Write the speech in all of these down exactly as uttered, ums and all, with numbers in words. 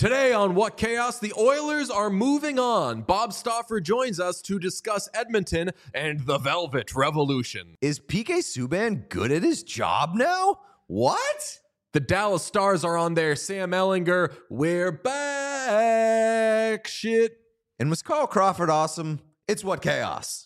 Today on What Chaos, the Oilers are moving on. Bob Stauffer joins us to discuss Edmonton and the Velvet Revolution. Is P K Subban good at his job now? What? The Dallas Stars are on their Sam Ellinger, we're back shit. And was Carl Crawford awesome? It's What Chaos.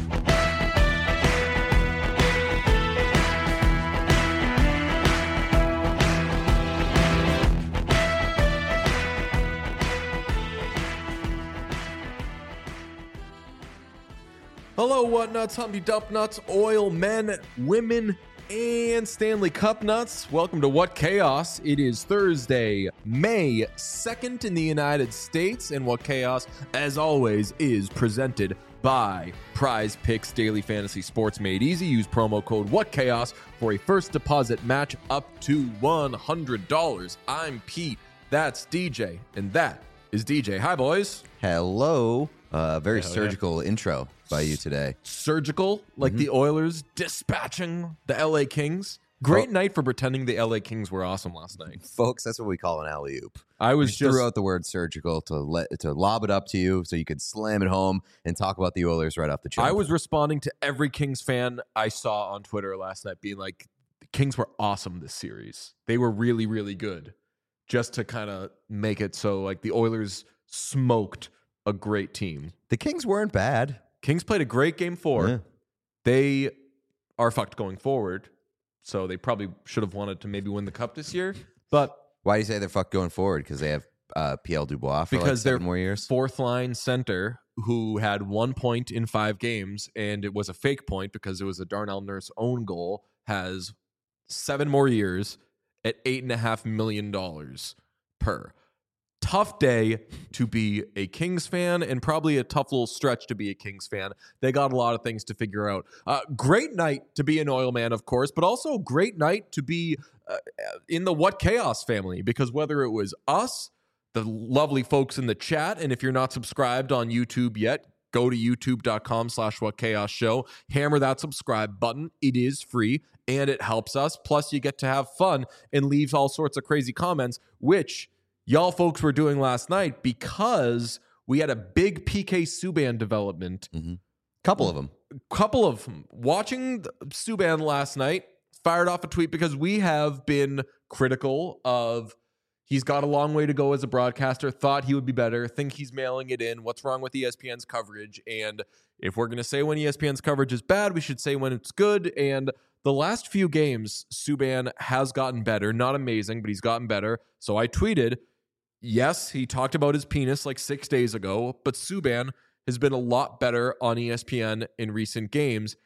Hello, what nuts, Humpty Dump nuts, oil men, women, and Stanley Cup nuts. Welcome to What Chaos. It is Thursday, May second in the United States, and What Chaos, as always, is presented by Prize Picks Daily Fantasy Sports Made Easy. Use promo code WhatChaos for a first deposit match up to one hundred dollars. I'm Pete, that's D J, and that is D J. Hi, boys. Hello. Uh, very Hell surgical yeah. intro by you today. Surgical, like mm-hmm. the Oilers dispatching the L A Kings. Great oh. night for pretending the L A Kings were awesome last night. Folks, that's what we call an alley-oop. I was we just threw out the word surgical to let to lob it up to you so you could slam it home and talk about the Oilers right off the jump. I was responding to every Kings fan I saw on Twitter last night being like, the Kings were awesome this series. They were really, really good. Just to kind of make it so like the Oilers smoked a great team. The Kings weren't bad. Kings played a great game four. Yeah. They are fucked going forward, so they probably should have wanted to maybe win the cup this year. But why do you say they're fucked going forward? Because they have uh, P L Dubois for because like seven they're more years? Fourth line center who had one point in five games, and it was a fake point because it was a Darnell Nurse own goal, has seven more years at eight and a half million dollars per. Tough day to be a Kings fan, and probably a tough little stretch to be a Kings fan. They got a lot of things to figure out. Uh, great night to be an Oil man, of course, but also great night to be uh, in the What Chaos family, because whether it was us, the lovely folks in the chat, and if you're not subscribed on YouTube yet, go to youtube.com slash What Chaos Show. Hammer that subscribe button. It is free, and it helps us. Plus, you get to have fun and leave all sorts of crazy comments, which y'all folks were doing last night because we had a big P K Subban development. Mm-hmm. Couple of them. Couple of them. Watching Subban last night, fired off a tweet because we have been critical of he's got a long way to go as a broadcaster, thought he would be better, think he's mailing it in, what's wrong with E S P N's coverage, and if we're going to say when E S P N's coverage is bad, we should say when it's good, and the last few games, Subban has gotten better. Not amazing, but he's gotten better. So I tweeted, yes, he talked about his penis like six days ago, but Subban has been a lot better on E S P N in recent games.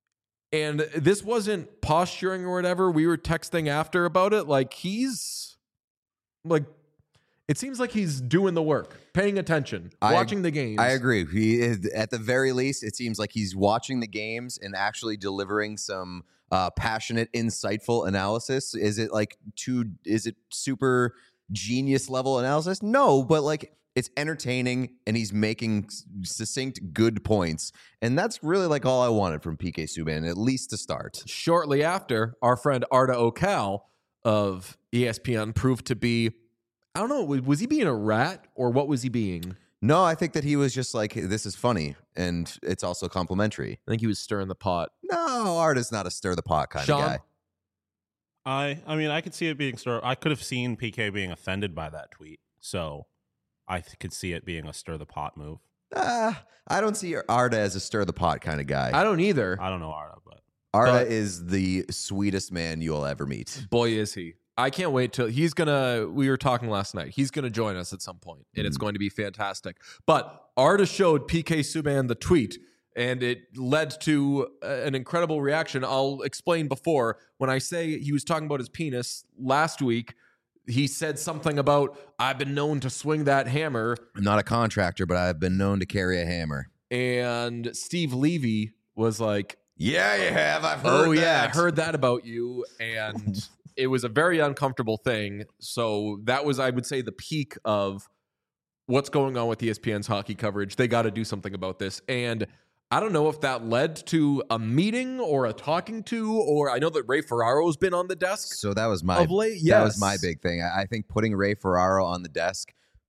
And this wasn't posturing or whatever. We were texting after about it. Like, he's like, it seems like he's doing the work, paying attention, I, watching the games. I agree. He, at the very least, it seems like he's watching the games and actually delivering some uh, passionate, insightful analysis. Is it like too, is it super genius level analysis? No, but like it's entertaining and he's making succinct good points, and that's really like all I wanted from P K Subban, at least to start. Shortly after, our friend Arda Ocal of E S P N proved to be, I don't know, was he being a rat or what was he being? No, I think that he was just like, this is funny and it's also complimentary. I think he was stirring the pot. No, Arda's not a stir the pot kind Sean? of guy. I I mean, I could see it being stir. I could have seen P K being offended by that tweet, so I th- could see it being a stir the pot move. Uh, I don't see Arda as a stir the pot kind of guy. I don't either. I don't know Arda, but Arda but, is the sweetest man you'll ever meet. Boy, is he. I can't wait till he's gonna. We were talking last night. He's gonna join us at some point, and mm. it's going to be fantastic. But Arda showed P K Subban the tweet, and it led to an incredible reaction. I'll explain before. When I say he was talking about his penis last week, he said something about, I've been known to swing that hammer. I'm not a contractor, but I've been known to carry a hammer. And Steve Levy was like, yeah, you have. I've heard Oh, that. yeah, I heard that about you. And it was a very uncomfortable thing. So that was, I would say, the peak of what's going on with E S P N's hockey coverage. They got to do something about this. And I don't know if that led to a meeting or a talking to, or I know that Ray Ferraro's been on the desk. So that was my of late. Yes. That was my big thing. I think putting Ray Ferraro on the desk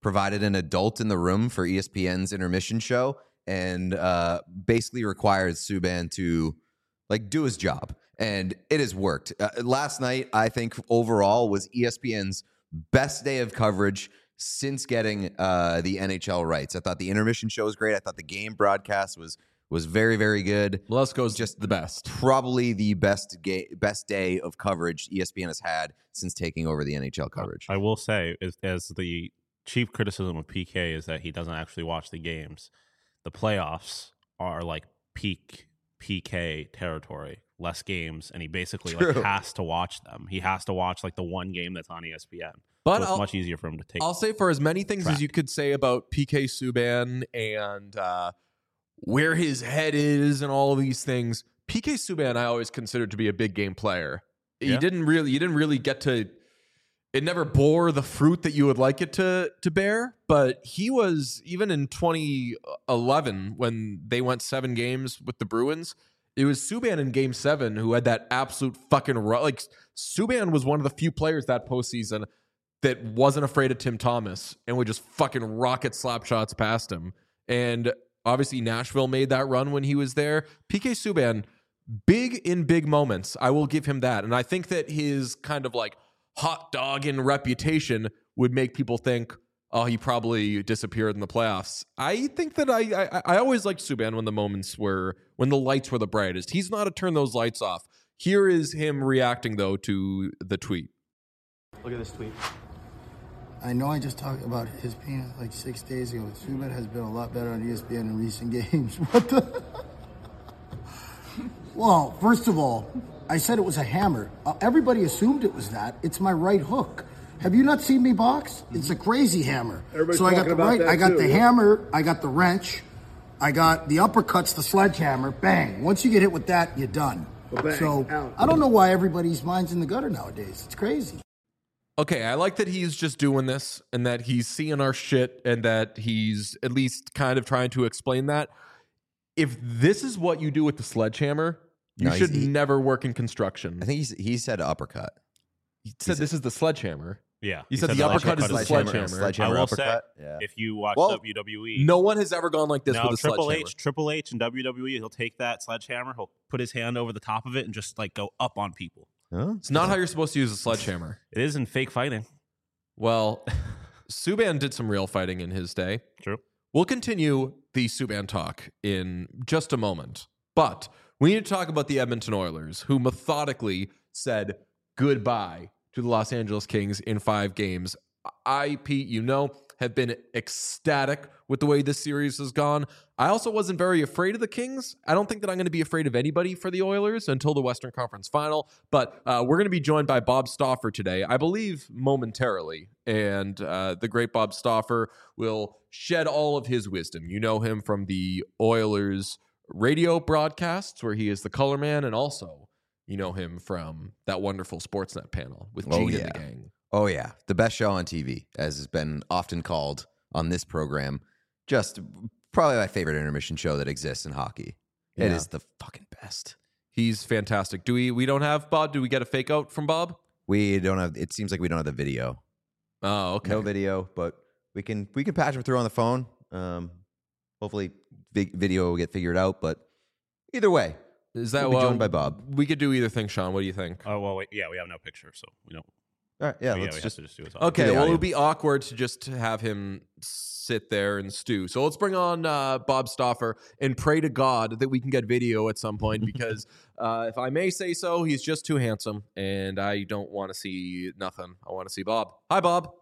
provided an adult in the room for E S P N's intermission show and uh, basically required Subban to like do his job. And it has worked. Uh, last night, I think overall was E S P N's best day of coverage since getting uh, the N H L rights. I thought the intermission show was great. I thought the game broadcast was was very, very good. Lesko's just the best. Probably the best ga- best day of coverage E S P N has had since taking over the N H L coverage. I will say, as, as the chief criticism of P K is that he doesn't actually watch the games. The playoffs are like peak P K territory, less games, and he basically like has to watch them. He has to watch like the one game that's on E S P N. But so it's I'll, much easier for him to take. I'll say for as many things track. as you could say about P K Subban and uh, where his head is and all of these things, P K Subban I always considered to be a big game player. Yeah. You didn't really, you didn't really get to. It never bore the fruit that you would like it to to bear, but he was, even in twenty eleven when they went seven games with the Bruins, it was Subban in game seven who had that absolute fucking run. Like Subban was one of the few players that postseason that wasn't afraid of Tim Thomas and would just fucking rocket slap shots past him. And obviously Nashville made that run when he was there. P K Subban, big in big moments. I will give him that. And I think that his kind of like hot dog in reputation would make people think, oh, he probably disappeared in the playoffs. I think that I I, I always liked Subban when the moments were, when the lights were the brightest. He's not to turn those lights off. Here is him reacting, though, to the tweet. Look at this tweet. I know I just talked about his penis like six days ago. Subban has been a lot better on E S P N in recent games. What the? Well, first of all, I said it was a hammer. Uh, everybody assumed it was that. It's my right hook. Have you not seen me box? It's a crazy hammer. Everybody's so I got the talking about right, that I got too, the yeah. hammer, I got the wrench, I got the uppercuts, the sledgehammer, bang. Once you get hit with that, you're done. Well, bang, so out. I don't know why everybody's mind's in the gutter nowadays. It's crazy. Okay, I like that he's just doing this and that he's seeing our shit and that he's at least kind of trying to explain that. If this is what you do with the sledgehammer, you No, he's- should he- never work in construction. I think he's, he said uppercut. He said this is the sledgehammer. Yeah, You he said the uppercut is the sledgehammer. sledgehammer. Sledgehammer I will uppercut. say, Yeah. if you watch Well, W W E, No one has ever gone like this now with a Triple sledgehammer. H, Triple H, and W W E, he'll take that sledgehammer, he'll put his hand over the top of it, and just like go up on people. Huh? It's not how you're supposed to use a sledgehammer. It is in fake fighting. Well, Subban did some real fighting in his day. True. We'll continue the Subban talk in just a moment. But we need to talk about the Edmonton Oilers, who methodically said goodbye to the Los Angeles Kings in five games. I, Pete, you know, have been ecstatic with the way this series has gone. I also wasn't very afraid of the Kings. I don't think that I'm going to be afraid of anybody for the Oilers until the Western Conference Final. But uh, we're going to be joined by Bob Stauffer today, I believe momentarily. And uh, the great Bob Stauffer will shed all of his wisdom. You know him from the Oilers radio broadcasts where he is the color man, and also you know him from that wonderful Sportsnet panel with Oh, Gene yeah. and the gang. Oh, yeah. The best show on T V, as has been often called on this program. Just probably my favorite intermission show that exists in hockey. It Yeah. is the fucking best. He's fantastic. Do we we don't have Bob? Do we get a fake out from Bob? We don't have, it seems like we don't have the video. Oh, okay. No video, but we can we can patch him through on the phone. Um, hopefully vi- video will get figured out, but either way, Is that we'll be well, joined by Bob. We could do either thing, Sean. What do you think? Oh, well, wait, yeah, we have no picture, so we don't. All right, yeah, yeah, let's we just have to just do his audio. Okay, the well, it audio. would be awkward to just have him sit there and stew. So let's bring on uh, Bob Stauffer and pray to God that we can get video at some point because, uh, if I may say so, he's just too handsome, and I don't want to see nothing. I want to see Bob. Hi, Bob.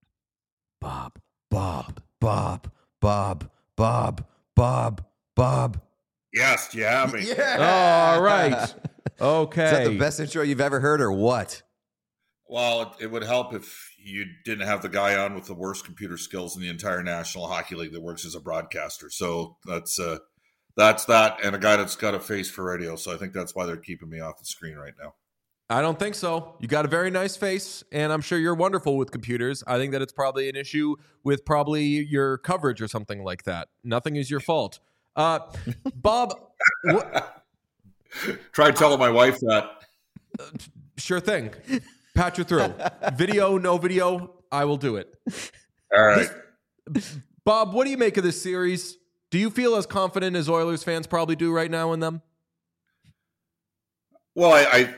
Bob, Bob, Bob, Bob, Bob, Bob, Bob. Yes, do you have me? All right. Okay. Is that the best intro you've ever heard, or what? Well, it, it would help if you didn't have the guy on with the worst computer skills in the entire National Hockey League that works as a broadcaster. So that's uh, that's that, and a guy that's got a face for radio. So I think that's why they're keeping me off the screen right now. I don't think so. You got a very nice face, and I'm sure you're wonderful with computers. I think that it's probably an issue with probably your coverage or something like that. Nothing is your fault. Uh, Bob, what, Try telling my wife that. sure thing. Patch you through. Video, no video, I will do it. All right. This, Bob, what do you make of this series? Do you feel as confident as Oilers fans probably do right now in them? Well, I, I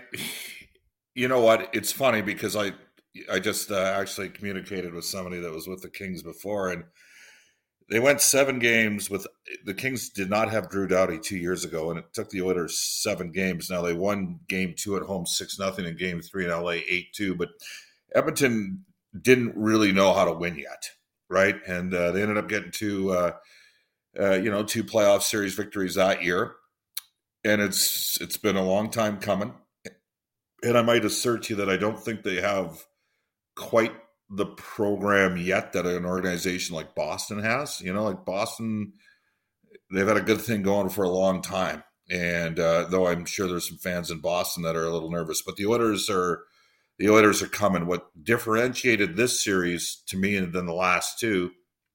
you know what? It's funny because I I just uh, actually communicated with somebody that was with the Kings before, and they went seven games with the Kings. Did not have Drew Doughty two years ago, and it took the Oilers seven games. Now they won game two at home six nothing, and game three in L A eight two. But Edmonton didn't really know how to win yet, right? And uh, they ended up getting two, uh, uh, you know, two playoff series victories that year, and it's it's been a long time coming. And I might assert to you that I don't think they have quite the program yet that an organization like Boston has. You know, like Boston, they've had a good thing going for a long time. And uh, though I'm sure there's some fans in Boston that are a little nervous, but the Oilers are the Oilers are coming. What differentiated this series to me and then the last two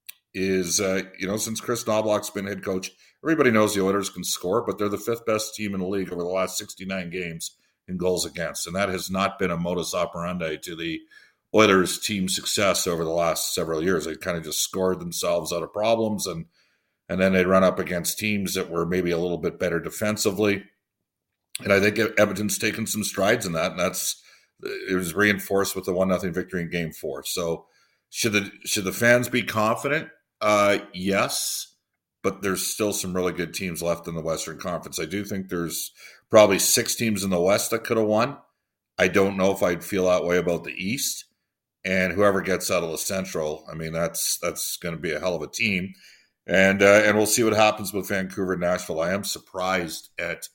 is, uh, you know, since Chris Knobloch's been head coach, everybody knows the Oilers can score, but they're the fifth best team in the league over the last sixty-nine games in goals against. And that has not been a modus operandi to the Oilers team success over the last several years. They kind of just scored themselves out of problems, and and then they run up against teams that were maybe a little bit better defensively. And I think Edmonton's taken some strides in that, and that's it was reinforced with the one nothing victory in game four. So should the should the fans be confident? Uh, yes, but there's still some really good teams left in the Western Conference. I do think there's probably six teams in the West that could have won. I don't know if I'd feel that way about the East. And whoever gets out of the Central, I mean, that's that's going to be a hell of a team. And uh, and we'll see what happens with Vancouver and Nashville. I am surprised at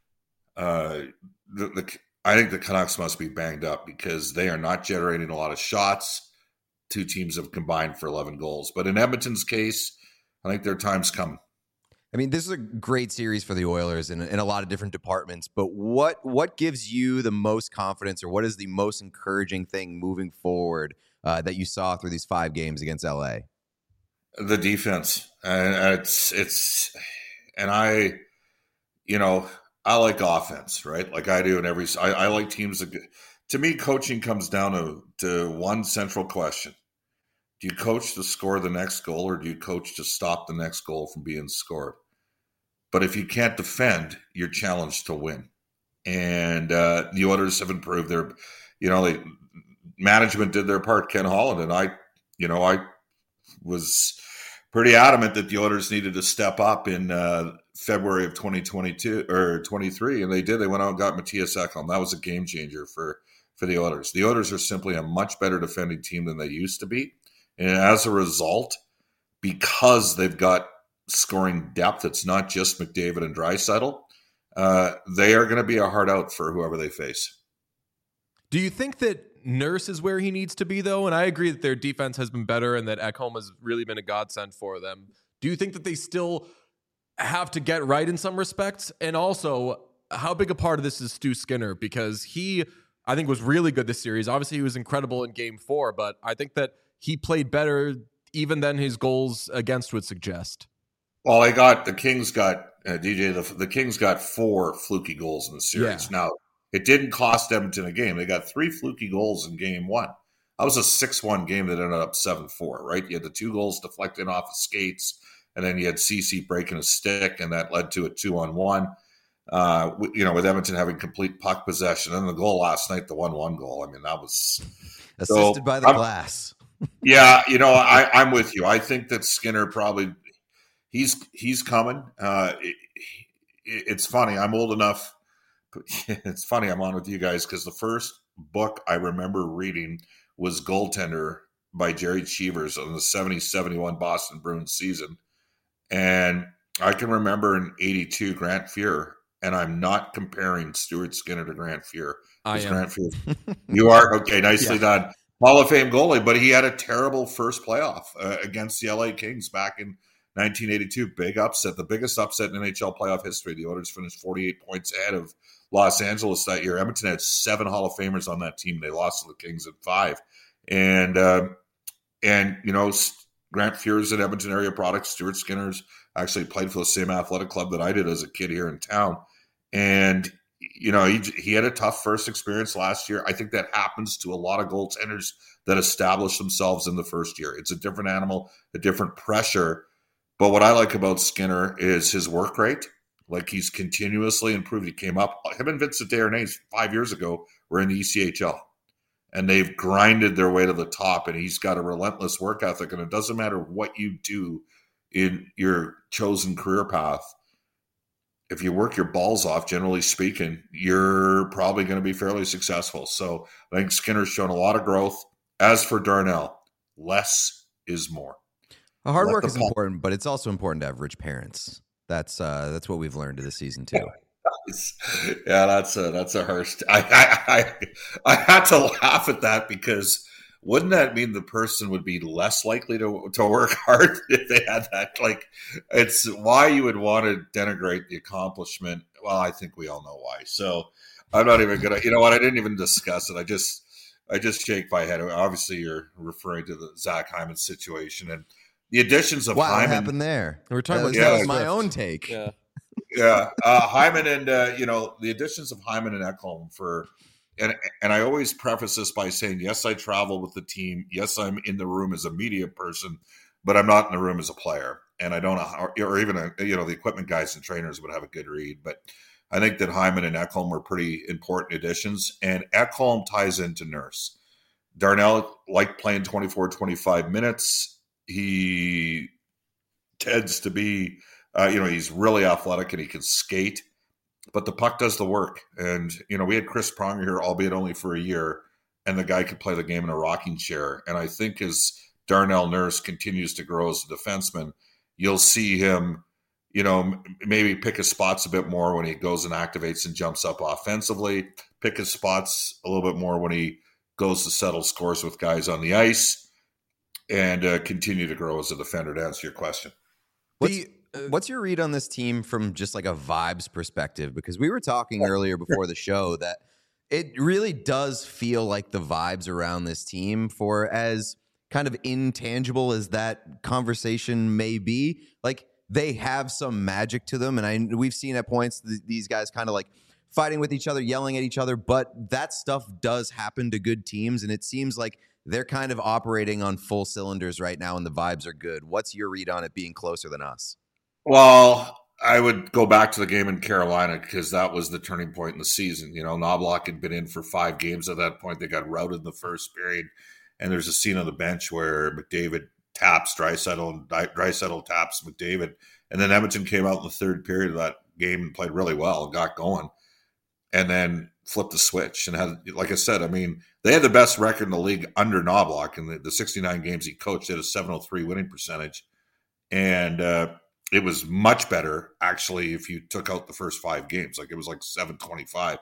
uh, the, the I think the Canucks must be banged up because they are not generating a lot of shots. Two teams have combined for eleven goals. But in Edmonton's case, I think their time's coming. I mean, this is a great series for the Oilers in, in a lot of different departments, but what what gives you the most confidence, or what is the most encouraging thing moving forward uh, that you saw through these five games against L A? The defense. And it's, it's, and I, you know, I like offense, right? Like I do in every, I, I like teams that, to me, coaching comes down to, to one central question. Do you coach to score the next goal, or do you coach to stop the next goal from being scored? But if you can't defend, you're challenged to win. And uh, the Oilers have improved their, you know, they, management did their part. Ken Holland and I, you know, I was pretty adamant that the Oilers needed to step up in uh, February of twenty twenty-two or twenty-three, and they did. They went out and got Matthias Ekholm. That was a game changer for for the Oilers. The Oilers are simply a much better defending team than they used to be, and as a result, because they've got scoring depth, it's not just McDavid and Draisaitl. Uh, they are going to be a hard out for whoever they face. Do you think that Nurse is where he needs to be, though? And I agree that their defense has been better and that Ekholm has really been a godsend for them. Do you think that they still have to get right in some respects? And also, how big a part of this is Stu Skinner? Because he, I think, was really good this series. Obviously, he was incredible in game four, but I think that he played better even than his goals against would suggest. Well, they got, the Kings got, uh, D J, the, the Kings got four fluky goals in the series. Yeah. Now, it didn't cost Edmonton a game. They got three fluky goals in game one. That was a six one game that ended up seven four, right? You had the two goals deflecting off of skates, and then you had Ceci breaking a stick, and that led to a two on one. Uh, you know, with Edmonton having complete puck possession. And the goal last night, the one one goal, I mean, that was... Assisted so, by the I'm, glass. Yeah, you know, I, I'm with you. I think that Skinner probably... He's he's coming. Uh, it, it, it's funny. I'm old enough. It's funny I'm on with you guys because the first book I remember reading was Goaltender by Jerry Cheevers on the seventy seventy-one Boston Bruins season. And I can remember in eighty-two Grant Fuhr, and I'm not comparing Stuart Skinner to Grant Fuhr. I am. Grant Fuhr, you are? Okay, nicely yeah. done. Hall of Fame goalie, but he had a terrible first playoff uh, against the L A Kings back in nineteen eighty-two, big upset, the biggest upset in N H L playoff history. The Oilers finished forty-eight points ahead of Los Angeles that year. Edmonton had seven Hall of Famers on that team. They lost to the Kings at five. And, uh, and you know, Grant Fuhr's an Edmonton area product. Stuart Skinner's actually played for the same athletic club that I did as a kid here in town. And you know, he, he had a tough first experience last year. I think that happens to a lot of goaltenders that establish themselves in the first year. It's a different animal, a different pressure. But what I like about Skinner is his work rate. Like, he's continuously improved. He came up, him and Vincent Desharnais five years ago were in the E C H L. And they've grinded their way to the top, and he's got a relentless work ethic. And it doesn't matter what you do in your chosen career path. If you work your balls off, generally speaking, you're probably going to be fairly successful. So I think Skinner's shown a lot of growth. As for Darnell, less is more. Hard Let work the is ball- important, but it's also important to have rich parents. That's uh, that's what we've learned this season too. Yeah, that's a that's a Hearst. I, I I I had to laugh at that because wouldn't that mean the person would be less likely to to work hard if they had that? Like, it's why you would want to denigrate the accomplishment. Well, I think we all know why. So I'm not even gonna. You know what? I didn't even discuss it. I just I just shake my head. Obviously, you're referring to the Zach Hyman situation and the additions of Wow, what Hyman. happened there? We're talking That about was, yeah, that was my Swift. own take. Yeah. Yeah, uh, Hyman and uh, you know, the additions of Hyman and Ekholm for, and and I always preface this by saying, yes, I travel with the team. Yes, I'm in the room as a media person, but I'm not in the room as a player, and I don't know, how, or even a, you know, the equipment guys and trainers would have a good read. But I think that Hyman and Ekholm were pretty important additions, and Ekholm ties into Nurse. Darnell liked playing twenty-four, twenty-five minutes. He tends to be. Uh, you know, he's really athletic and he can skate, but the puck does the work. And, you know, we had Chris Pronger here, albeit only for a year, and the guy could play the game in a rocking chair. And I think as Darnell Nurse continues to grow as a defenseman, you'll see him, you know, maybe pick his spots a bit more when he goes and activates and jumps up offensively, pick his spots a little bit more when he goes to settle scores with guys on the ice, and uh, continue to grow as a defender, to answer your question. What's, what's your read on this team from just like a vibes perspective? Because we were talking earlier before the show that it really does feel like the vibes around this team, for as kind of intangible as that conversation may be, like they have some magic to them. And I we've seen at points th- these guys kind of like fighting with each other, yelling at each other, but that stuff does happen to good teams. And it seems like they're kind of operating on full cylinders right now, and the vibes are good. What's your read on it being closer than us? Well, I would go back to the game in Carolina because that was the turning point in the season. You know, Knobloch had been in for five games at that point. They got routed in the first period, and there's a scene on the bench where McDavid taps Draisaitl and Draisaitl taps McDavid, and then Edmonton came out in the third period of that game and played really well and got going, and then flipped the switch and had, like I said, I mean, they had the best record in the league under Knobloch in the, the sixty-nine games he coached. They had a seven oh three winning percentage, and uh, it was much better, actually, if you took out the first five games. Like, it was like seven twenty-five.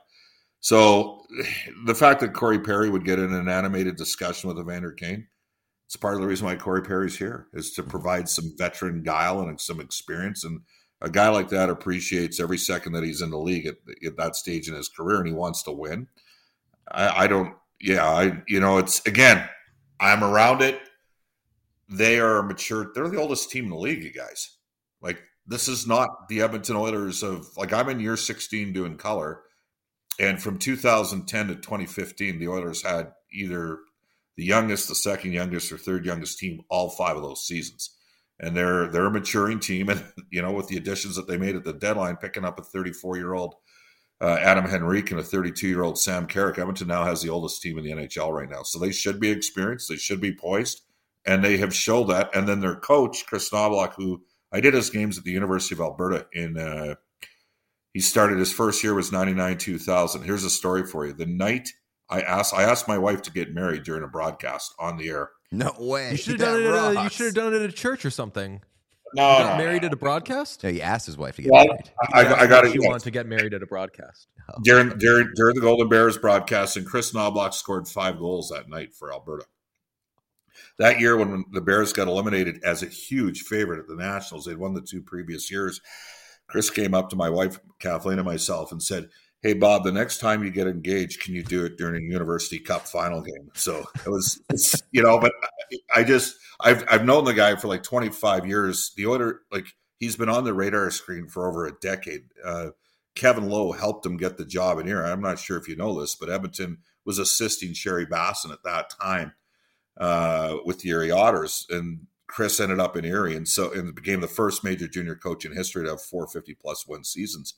So the fact that Corey Perry would get in an animated discussion with Evander Kane, it's part of the reason why Corey Perry's here, is to provide some veteran guile and some experience. And a guy like that appreciates every second that he's in the league at, at that stage in his career, and he wants to win. I, I don't, yeah, I, you know, it's, again, I'm around it. They are mature. They're the oldest team in the league, you guys. Like, this is not the Edmonton Oilers of, like, I'm in year sixteen doing color. And from two thousand ten to twenty fifteen, the Oilers had either the youngest, the second youngest, or third youngest team all five of those seasons. And they're they're a maturing team. And, you know, with the additions that they made at the deadline, picking up a thirty-four-year-old uh, Adam Henrique and a thirty-two-year-old Sam Carrick, Edmonton now has the oldest team in the N H L right now. So they should be experienced. They should be poised. And they have showed that. And then their coach, Chris Knobloch, who I did his games at the University of Alberta in uh, – he started his first year was ninety-nine two thousand. Here's a story for you. The night I asked I asked my wife to get married during a broadcast on the air. No way. You should have done it. At a, you rocks. should have done it at a church or something. No, You got no, married at a broadcast. No, he asked his wife to get Well, married. I, I got it. You want to get married at a broadcast? During, during, during the Golden Bears broadcast, and Chris Knobloch scored five goals that night for Alberta. That year, when the Bears got eliminated as a huge favorite at the Nationals, they'd won the two previous years. Chris came up to my wife, Kathleen, and myself and said, "Hey, Bob, the next time you get engaged, can you do it during a University Cup final game?" So it was, it's, you know, but I just, I've I've known the guy for like twenty-five years. The Oilers, like, he's been on the radar screen for over a decade. Uh, Kevin Lowe helped him get the job in Erie. I'm not sure if you know this, but Edmonton was assisting Sherry Basson at that time uh, with the Erie Otters, and Chris ended up in Erie, and so and became the first major junior coach in history to have four fifty plus win seasons.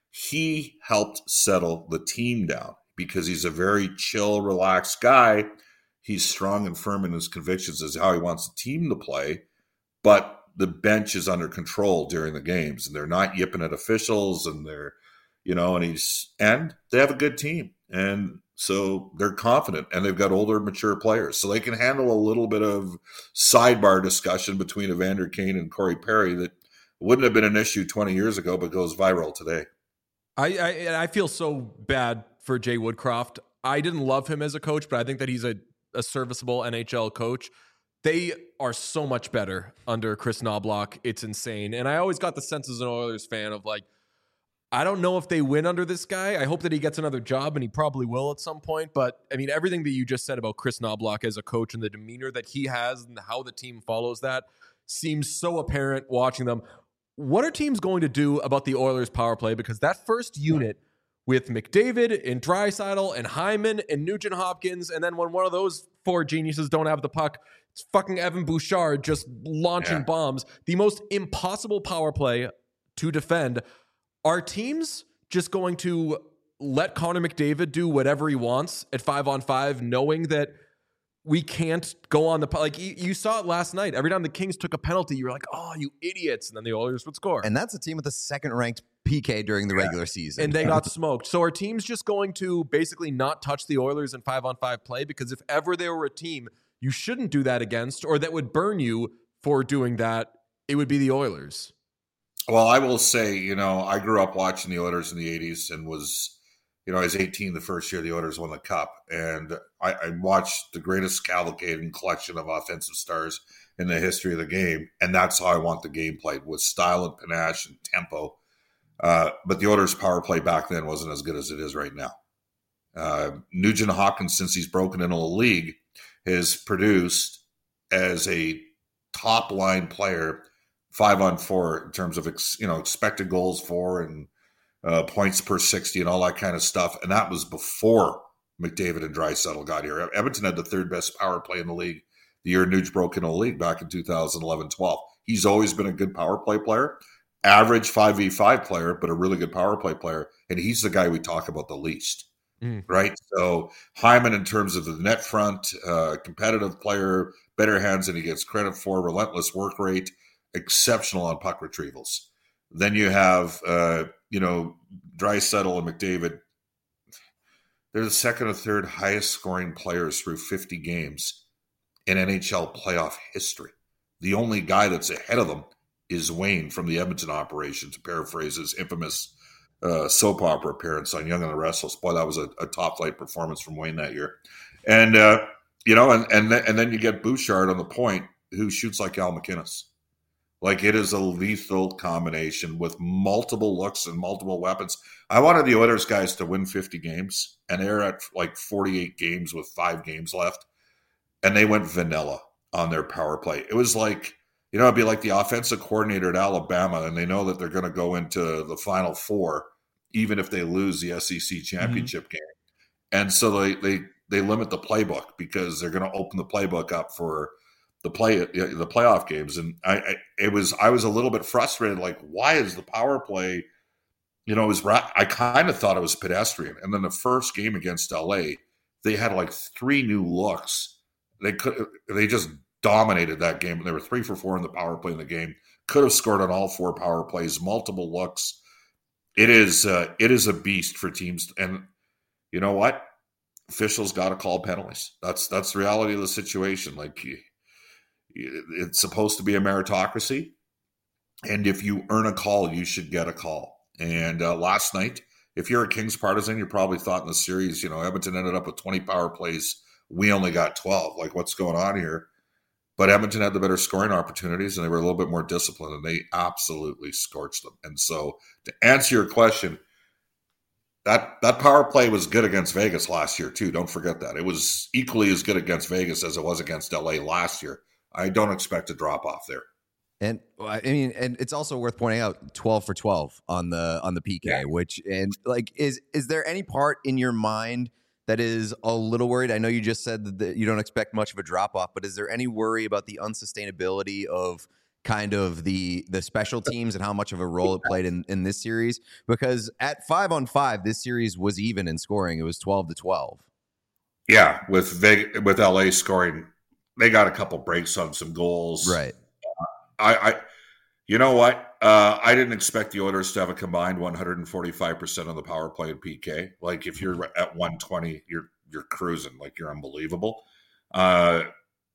He helped settle the team down because he's a very chill, relaxed guy. He's strong and firm in his convictions as how he wants the team to play, but the bench is under control during the games, and they're not yipping at officials, and they're, you know, and he's, and they have a good team. And so they're confident, and they've got older, mature players. So they can handle a little bit of sidebar discussion between Evander Kane and Corey Perry that wouldn't have been an issue twenty years ago, but goes viral today. I, I, I feel so bad for Jay Woodcroft. I didn't love him as a coach, but I think that he's a, a serviceable N H L coach. They are so much better under Chris Knobloch. It's insane. And I always got the sense as an Oilers fan of like, I don't know if they win under this guy. I hope that he gets another job, and he probably will at some point. But, I mean, everything that you just said about Chris Knobloch as a coach and the demeanor that he has and how the team follows that seems so apparent watching them. What are teams going to do about the Oilers power play? Because that first unit with McDavid and Draisaitl and Hyman and Nugent Hopkins, and then when one of those four geniuses don't have the puck, it's fucking Evan Bouchard just launching yeah. bombs. The most impossible power play to defend. Are teams just going to let Connor McDavid do whatever he wants at five on five, knowing that we can't go on the, like you, you saw it last night. Every time the Kings took a penalty, you were like, oh, you idiots. And then the Oilers would score. And that's a team with a second ranked P K during the yeah. regular season. And they got smoked. So are teams just going to basically not touch the Oilers in five on five play? Because if ever there were a team you shouldn't do that against, or that would burn you for doing that, it would be the Oilers. Well, I will say, you know, I grew up watching the Oilers in the eighties and was, you know, I was eighteen the first year the Oilers won the Cup. And I, I watched the greatest cavalcade and collection of offensive stars in the history of the game. And that's how I want the game played, with style and panache and tempo. Uh, but the Oilers' power play back then wasn't as good as it is right now. Uh, Nugent Hopkins, since he's broken into the league, has produced as a top-line player five on four in terms of ex, you know expected goals for and uh, points per sixty and all that kind of stuff. And that was before McDavid and Draisaitl got here. Edmonton had the third best power play in the league the year Nuge broke into the league back in two thousand eleven twelve. He's always been a good power play player, average five v five player, but a really good power play player. And he's the guy we talk about the least. Mm. Right. So Hyman, in terms of the net front, uh, competitive player, better hands than he gets credit for, relentless work rate, exceptional on puck retrievals. Then you have, uh, you know, Draisaitl and McDavid. They're the second or third highest scoring players through fifty games in N H L playoff history. The only guy that's ahead of them is Wayne from the Edmonton operation, to paraphrase his infamous Uh, soap opera appearance on Young and the Restless. Boy, that was a, a top flight performance from Wayne that year. And, uh, you know, and and, th- and then you get Bouchard on the point, who shoots like Al McInnes. Like, it is a lethal combination with multiple looks and multiple weapons. I wanted the Oilers guys to win fifty games, and they're at like forty-eight games with five games left. And they went vanilla on their power play. It was like, you know, it'd be like the offensive coordinator at Alabama, and they know that they're going to go into the Final Four, even if they lose the S E C championship mm-hmm. game. And so they, they, they limit the playbook because they're going to open the playbook up for the play, the playoff games. And I, I, it was, I was a little bit frustrated. Like, why is the power play, you know, it was, I kind of thought it was pedestrian. And then the first game against L A, they had like three new looks. They could, they just dominated that game. They were three for four in the power play in the game. Could have scored on all four power plays, multiple looks. It is uh, it is a beast for teams, and you know what? Officials got to call penalties. That's that's the reality of the situation. Like, it's supposed to be a meritocracy, and if you earn a call, you should get a call. And uh, last night, if you're a Kings partisan, you probably thought in the series, you know, Edmonton ended up with twenty power plays. We only got twelve. Like, what's going on here? But Edmonton had the better scoring opportunities, and they were a little bit more disciplined, and they absolutely scorched them. And so, to answer your question, that that power play was good against Vegas last year too. Don't forget that. It was equally as good against Vegas as it was against L A last year. I don't expect a drop off there. And I mean, and it's also worth pointing out twelve for twelve on the on the P K, Yeah. which and like is is there any part in your mind that is a little worried? I know you just said that you don't expect much of a drop off, but is there any worry about the unsustainability of kind of the the special teams and how much of a role it played in, in this series? Because at five on five, this series was even in scoring. It was twelve to twelve. Yeah, with Vegas, with L A scoring, they got a couple breaks on some goals. Right. I, I you know what? Uh, I didn't expect the Oilers to have a combined one hundred forty-five percent on the power play and P K. Like if you're at one twenty, you're you're cruising. Like you're unbelievable. Uh,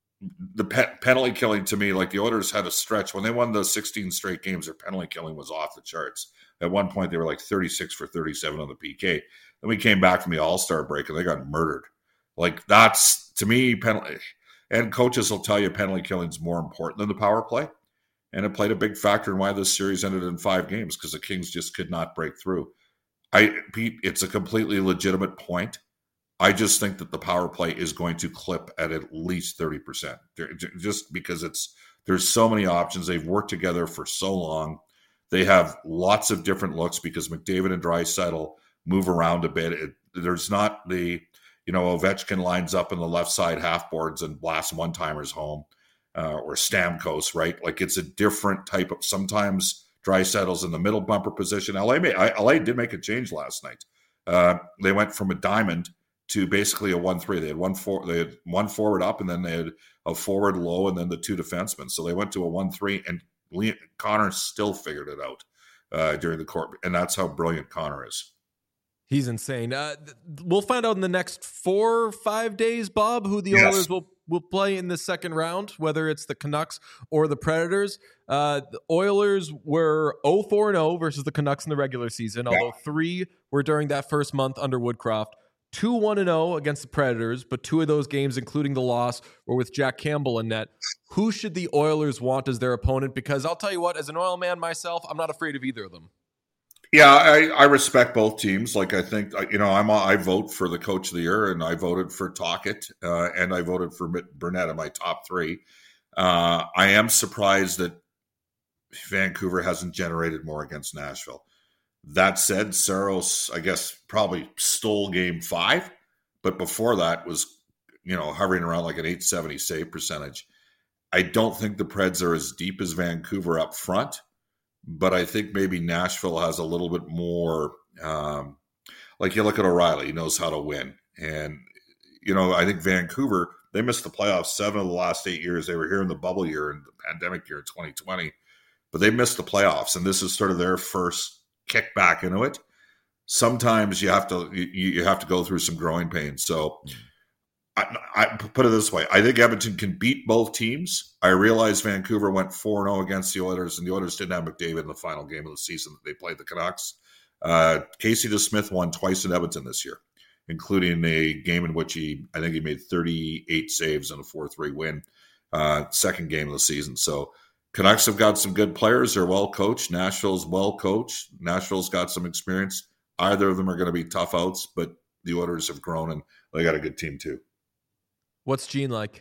the pe- penalty killing to me, like the Oilers had a stretch when they won the sixteen straight games. Their penalty killing was off the charts. At one point, they were like thirty-six for thirty-seven on the P K. Then we came back from the All-Star break and they got murdered. Like that's to me penalty. And coaches will tell you penalty killing is more important than the power play. And it played a big factor in why this series ended in five games because the Kings just could not break through. I, Pete, it's a completely legitimate point. I just think that the power play is going to clip at at least thirty percent. Just because it's there's so many options. They've worked together for so long. They have lots of different looks because McDavid and Draisaitl move around a bit. It, there's not the, you know, Ovechkin lines up in the left side half boards and blasts one-timers home. Uh, or Stamkos, right? Like it's a different type of. Sometimes Draisaitl's in the middle bumper position. L A, made, I, L A did make a change last night. Uh, they went from a diamond to basically a one three. They had one four. They had one forward up, and then they had a forward low, and then the two defensemen. So they went to a one three, and Leon, Connor still figured it out uh, during the court, and that's how brilliant Connor is. He's insane. Uh, th- we'll find out in the next four or five days, Bob, who the Yes. Oilers will, will play in the second round, whether it's the Canucks or the Predators. Uh, the Oilers were oh four and oh versus the Canucks in the regular season, although three were during that first month under Woodcroft. two one and oh against the Predators, but two of those games, including the loss, were with Jack Campbell in net. Who should the Oilers want as their opponent? Because I'll tell you what, as an Oil man myself, I'm not afraid of either of them. Yeah, I, I respect both teams. Like I think, you know, I'm a, I vote for the coach of the year, and I voted for Tocchet, uh, and I voted for Burnett in my top three. Uh, I am surprised that Vancouver hasn't generated more against Nashville. That said, Saros, I guess, probably stole game five, but before that was, you know, hovering around like an eight seventy save percentage. I don't think the Preds are as deep as Vancouver up front. But I think maybe Nashville has a little bit more, um, like you look at O'Reilly, he knows how to win. And, you know, I think Vancouver, they missed the playoffs seven of the last eight years. They were here in the bubble year and the pandemic year in twenty twenty. But they missed the playoffs, and this is sort of their first kick back into it. Sometimes you have to you, you have to go through some growing pains. So I, I put it this way. I think Edmonton can beat both teams. I realize Vancouver went four and oh against the Oilers, and the Oilers didn't have McDavid in the final game of the season that they played the Canucks. Uh, Casey DeSmith won twice in Edmonton this year, including a game in which he, I think he made thirty-eight saves in a four three win, uh, second game of the season. So Canucks have got some good players. They're well coached. Nashville's well coached. Nashville's got some experience. Either of them are going to be tough outs, but the Oilers have grown, and they got a good team too. What's Gene like?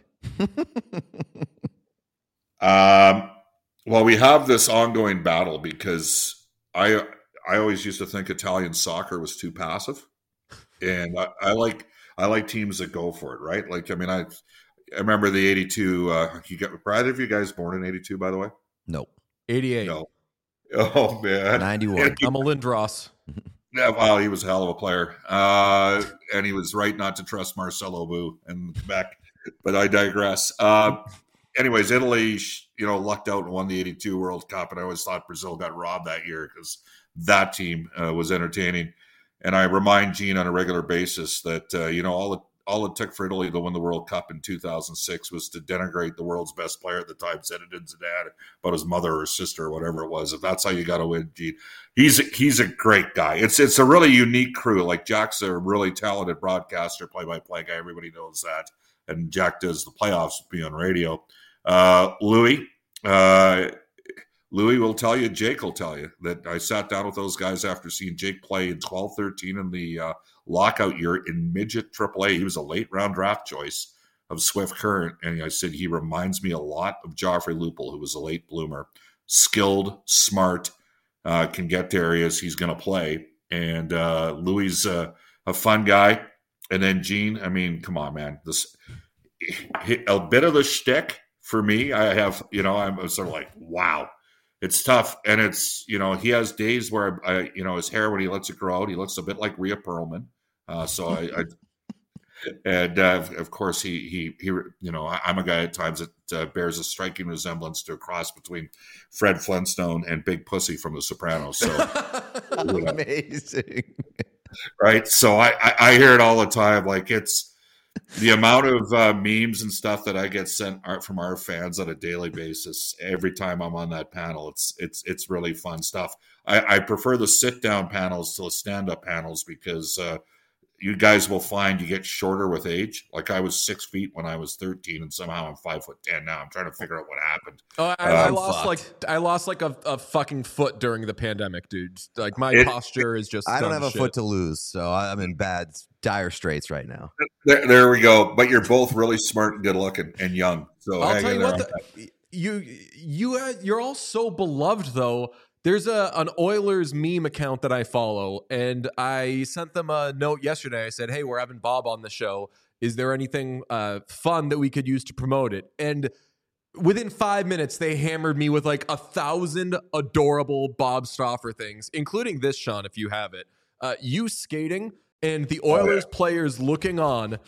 um, well, we have this ongoing battle because I I always used to think Italian soccer was too passive, and I, I like I like teams that go for it, right? Like, I mean, I I remember the eighty-two. Uh, you got were either of you guys born in eighty-two, by the way? Nope. eighty-eight. No. Oh man, ninety-one. I'm a Lindros. Yeah, well, he was a hell of a player, uh, and he was right not to trust Marcelo Boo and Quebec. But I digress. Uh, anyways, Italy, you know, lucked out and won the eighty-two World Cup, and I always thought Brazil got robbed that year because that team uh, was entertaining. And I remind Gene on a regular basis that uh, you know all it all it took for Italy to win the World Cup in two thousand six was to denigrate the world's best player at the time, Zinedine Zidane, about his mother or sister or whatever it was. If that's how you got to win, Gene, he's he's a great guy. It's it's a really unique crew. Like Jack's a really talented broadcaster, play-by-play guy. Everybody knows that. And Jack does the playoffs be on radio. Uh, Louis, uh, Louis will tell you, Jake will tell you that I sat down with those guys after seeing Jake play in twelve thirteen in the uh, lockout year in midget triple A. He was a late round draft choice. of Swift Current, and I said he reminds me a lot of Joffrey Lupul, who was a late bloomer, skilled, smart, uh, can get to areas he's going to play. And uh, Louis uh, a fun guy. And then Gene, I mean, come on, man. This a bit of the shtick for me. I have, you know, I'm sort of like, wow, it's tough. And it's, you know, he has days where, I, you know, his hair, when he lets it grow out, he looks a bit like Rhea Perlman. Uh, so I, I and uh, of course he, he, he, you know, I'm a guy at times that uh, bears a striking resemblance to a cross between Fred Flintstone and Big Pussy from The Sopranos. So amazing. Right. So I, I, I hear it all the time. Like, it's the amount of uh, memes and stuff that I get sent art from our fans on a daily basis. Every time I'm on that panel, it's, it's, it's really fun stuff. I, I prefer the sit down panels to the stand up panels because uh, you guys will find you get shorter with age. Like, I was six feet when I was thirteen, and somehow I'm five foot ten now. I'm trying to figure out what happened. Oh, I, I Um, lost fucked. like I lost like a, a fucking foot during the pandemic, dude. Like, my It- posture is just. I don't dumb have a shit. foot to lose, so I'm in bad, dire straits right now. There, there we go. But you're both really smart and good looking and young. So I'll hang tell in you there what, on the, you you uh, you're all so beloved though. There's a an Oilers meme account that I follow, and I sent them a note yesterday. I said, "Hey, we're having Bob on the show. Is there anything uh, fun that we could use to promote it?" And within five minutes, they hammered me with like a thousand adorable Bob Stauffer things, including this, Sean, if you have it. Uh, you skating and the Oilers Oh, yeah. players looking on,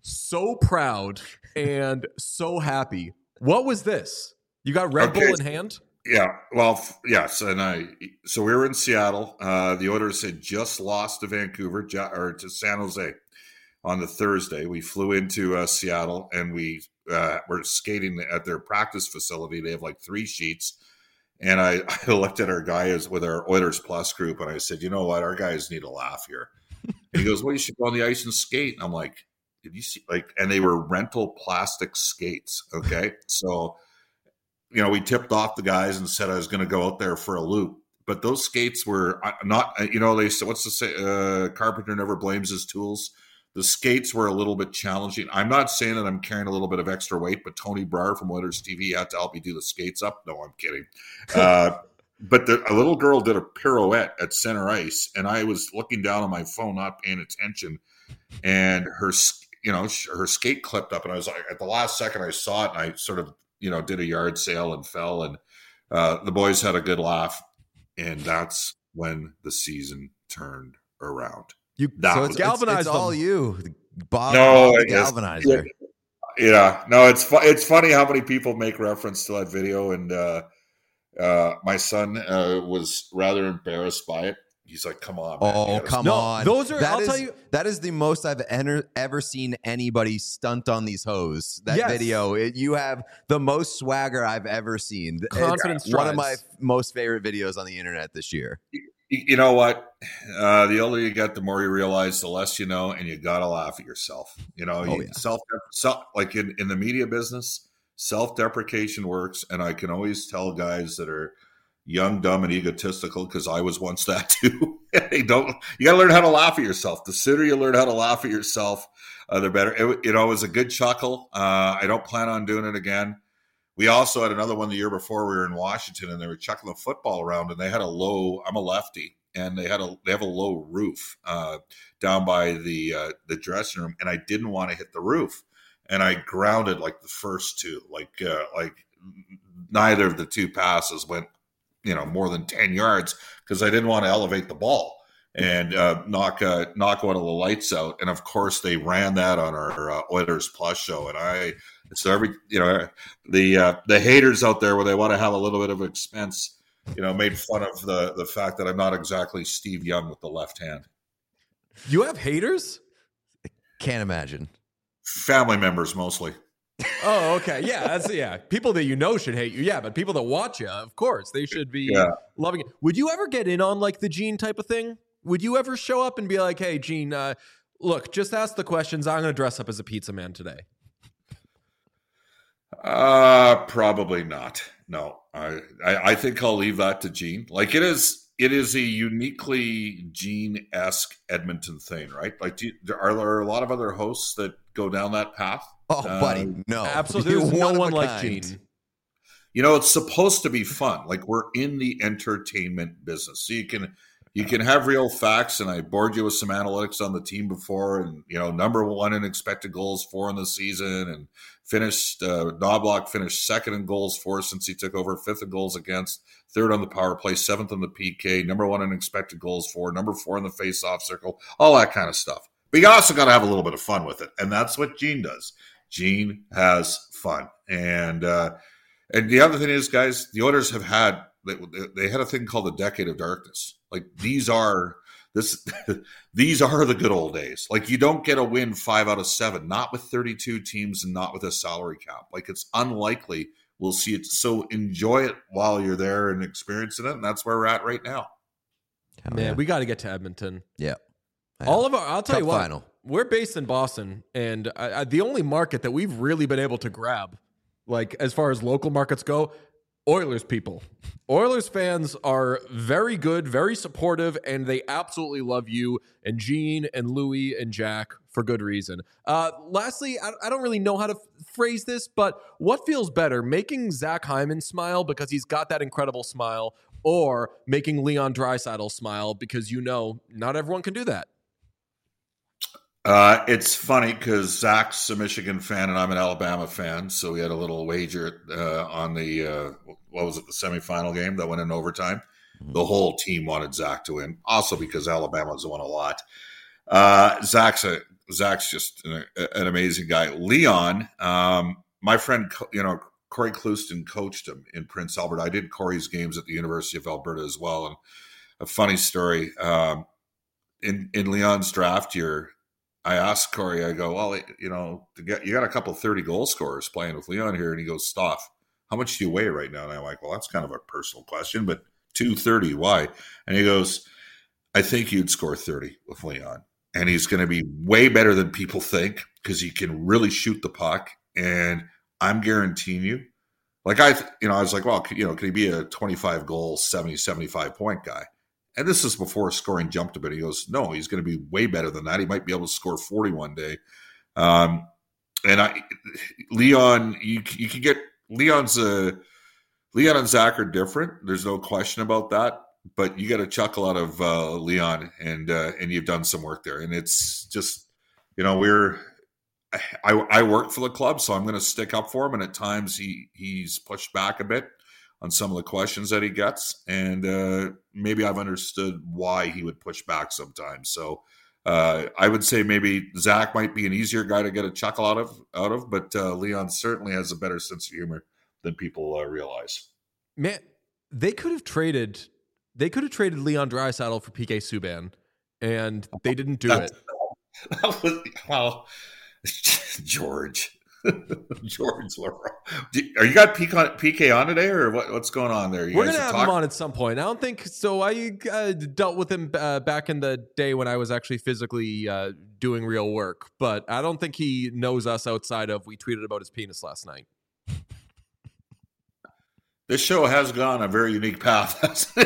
so proud and so happy. What was this? You got Red Okay. Bull in hand? Yeah, well, f- yes, and I. So we were in Seattle. Uh, the Oilers had just lost to Vancouver Ja- or to San Jose on the Thursday. We flew into uh, Seattle, and we uh, were skating at their practice facility. They have like three sheets, and I, I looked at our guys with our Oilers Plus group, and I said, "You know what? Our guys need a laugh here." And he goes, "Well, you should go on the ice and skate." And I'm like, "Did you see?" Like, and they were rental plastic skates. Okay, so. You know, we tipped off the guys and said I was going to go out there for a loop. But those skates were uh, not, uh, you know, they said, what's the say? Uh, Carpenter never blames his tools. The skates were a little bit challenging. I'm not saying that I'm carrying a little bit of extra weight, but Tony Brar from Oilers T V had to help me do the skates up. No, I'm kidding. Uh, but the, a little girl did a pirouette at center ice, and I was looking down on my phone, not paying attention, and her, you know, her skate clipped up, and I was like, at the last second I saw it, and I sort of, you know, did a yard sale and fell, and uh, the boys had a good laugh, and that's when the season turned around. You That So was- it's, galvanized it's, it's all them. you, Bob. No, Bob the I guess- galvanizer. Yeah, no, it's fu- it's funny how many people make reference to that video, and uh, uh, my son uh, was rather embarrassed by it. He's like, "Come on, man, you Oh, gotta come No, on. those are- That I'll is- tell you- That is the most I've enter, ever seen anybody stunt on these hoes. That Yes. video. It, you have the most swagger I've ever seen. It's Confidence one of my drives. most favorite videos on the internet this year. You you know what? Uh, the older you get, the more you realize, the less you know, and you gotta laugh at yourself. You know, Oh, you, yeah. self, self, like in, in the media business, self-deprecation works, and I can always tell guys that are young, dumb, and egotistical, because I was once that too. They don't. You gotta learn how to laugh at yourself. The sooner you learn how to laugh at yourself, uh, the better. It, you know, it was a good chuckle. Uh, I don't plan on doing it again. We also had another one the year before. We were in Washington, and they were chucking the football around, and they had a low. I'm a lefty, and they had a they have a low roof uh, down by the uh, the dressing room, and I didn't want to hit the roof, and I grounded like the first two, like uh, like neither of the two passes went, you know, more than ten yards because I didn't want to elevate the ball and uh, knock uh, knock one of the lights out. And of course, they ran that on our uh, Oilers Plus show, and I. So every, you know, the uh, the haters out there where they want to have a little bit of expense, you know, made fun of the the fact that I'm not exactly Steve Young with the left hand. You have haters? Can't imagine. Family members mostly. Oh, okay. Yeah, that's yeah. People that you know should hate you. Yeah, but people that watch you, of course, they should be Yeah. loving it. Would you ever get in on like the Gene type of thing? Would you ever show up and be like, "Hey, Gene, uh, look, just ask the questions. I'm going to dress up as a pizza man today." Uh, probably not. No, I, I, I think I'll leave that to Gene. Like it is, it is a uniquely Gene-esque Edmonton thing, right? Like, do you, are there a lot of other hosts that go down that path? Oh, Uh, buddy, no. Absolutely. You're There's no one of one a like kind. Gene. You know, it's supposed to be fun. Like, we're in the entertainment business. So you can you can have real facts, and I bored you with some analytics on the team before, and, you know, number one in expected goals for in the season, and finished, uh, Knobloch finished second in goals for since he took over, fifth in goals against, third on the power play, seventh on the P K, number one in expected goals for, number four in the face-off circle, all that kind of stuff. But you also got to have a little bit of fun with it, and that's what Gene does. Gene has fun. And, uh, And the other thing is, guys, the Oilers have had they, they had a thing called the decade of darkness. Like, these are this these are the good old days. Like, you don't get a win five out of seven, not with thirty-two teams and not with a salary cap. Like, it's unlikely we'll see it. So enjoy it while you're there and experiencing it. And that's where we're at right now. Hell Man, yeah. we got to get to Edmonton. Yeah. All of our, I'll tell Cup you what, final. we're based in Boston, and I, I, the only market that we've really been able to grab, like as far as local markets go, Oilers people. Oilers fans are very good, very supportive, and they absolutely love you and Gene and Louie and Jack for good reason. Uh, lastly, I, I don't really know how to f- phrase this, but what feels better, making Zach Hyman smile because he's got that incredible smile, or making Leon Draisaitl smile because, you know, not everyone can do that? Uh, it's funny because Zach's a Michigan fan and I'm an Alabama fan, so we had a little wager uh, on the uh, what was it, the semifinal game that went in overtime. Mm-hmm. The whole team wanted Zach to win, also because Alabama's won a lot. Uh, Zach's a Zach's just an, an amazing guy. Leon, um, my friend, you know, Corey Clouston coached him in Prince Albert. I did Corey's games at the University of Alberta as well, and a funny story um, in in Leon's draft year. I asked Corey, I go, well, you know, to get, you got a couple thirty goal scorers playing with Leon here. And he goes, Stoff, how much do you weigh right now? And I'm like, well, that's kind of a personal question, but two thirty, why? And he goes, I think you'd score thirty with Leon. And he's going to be way better than people think because he can really shoot the puck. And I'm guaranteeing you, like I, you know, I was like, well, you know, can he be a twenty-five goal, seventy, seventy-five point guy? And this is before scoring jumped a bit. He goes, no, he's going to be way better than that. He might be able to score forty one day. Um, and I, Leon, you you can get Leon's a Leon and Zach are different. There's no question about that. But you got a chuckle out of uh, Leon, and uh, and you've done some work there. And it's just, you know, we're I I work for the club, so I'm going to stick up for him. And at times he he's pushed back a bit on some of the questions that he gets. And uh, maybe I've understood why he would push back sometimes. So uh, I would say maybe Zach might be an easier guy to get a chuckle out of, out of but uh, Leon certainly has a better sense of humor than people uh, realize. Man, they could have traded, they could have traded Leon Draisaitl for P K Subban, and they didn't do That's, it. That was, well, George. George Leroy. Are you got P K on today, or what, what's going on there? You We're going to have talk- him on at some point. I don't think so. I uh, dealt with him uh, back in the day when I was actually physically uh, doing real work, but I don't think he knows us outside of we tweeted about his penis last night. This show has gone a very unique path.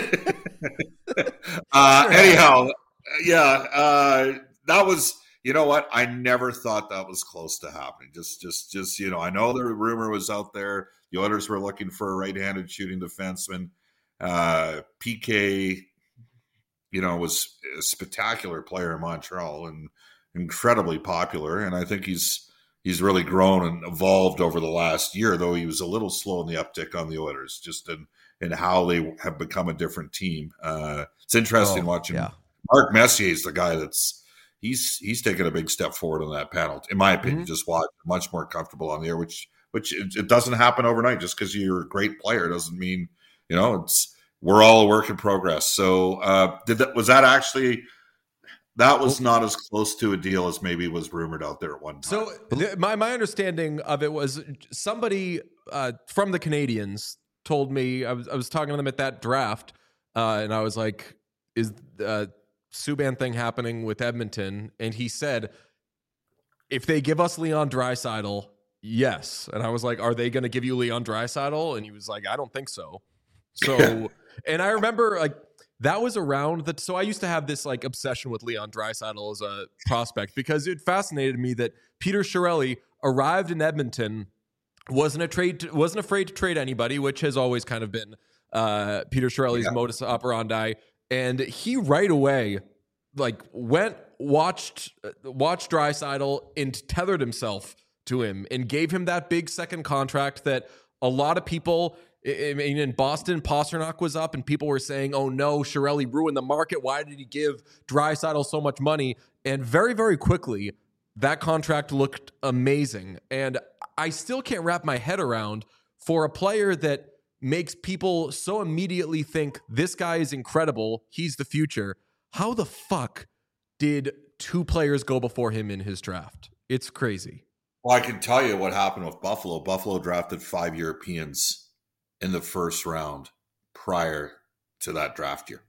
uh, anyhow, yeah, uh, that was... You know what? I never thought that was close to happening. Just, just, just. You know, I know the rumor was out there. The Oilers were looking for a right-handed shooting defenseman. Uh, P K, you know, was a spectacular player in Montreal and incredibly popular. And I think he's he's really grown and evolved over the last year. Though he was a little slow in the uptick on the Oilers, just in in how they have become a different team. Uh, it's interesting Oh, watching. yeah. Mark Messier is the guy that's. He's he's taken a big step forward on that panel, in my opinion. Mm-hmm. Just watch much more comfortable on the air, which which it, it doesn't happen overnight. Just because you're a great player doesn't mean you know it's. We're all a work in progress. So, uh, did that was that actually that was not as close to a deal as maybe was rumored out there at one time. So, th- my my understanding of it was somebody uh, from the Canadians told me I was I was talking to them at that draft, uh, and I was like, "Is uh, Subban thing happening with Edmonton?" And he said, if they give us Leon Draisaitl, yes. And I was like, are they going to give you Leon Draisaitl? And he was like, I don't think so. So, and I remember like that was around the. So I used to have this like obsession with Leon Draisaitl as a prospect because it fascinated me that Peter Chiarelli arrived in Edmonton, wasn't a trade, to, wasn't afraid to trade anybody, which has always kind of been uh, Peter Chiarelli's yeah. modus operandi, and he right away like went watched watched Draisaitl and tethered himself to him and gave him that big second contract that a lot of people. I mean, in Boston, Pasternak was up and people were saying, oh no, Chiarelli ruined the market. Why did he give Draisaitl so much money? And very, very quickly, that contract looked amazing. And I still can't wrap my head around for a player that makes people so immediately think this guy is incredible, he's the future. How the fuck did two players go before him in his draft? It's crazy. Well, I can tell you what happened with Buffalo. Buffalo drafted five Europeans in the first round prior to that draft year.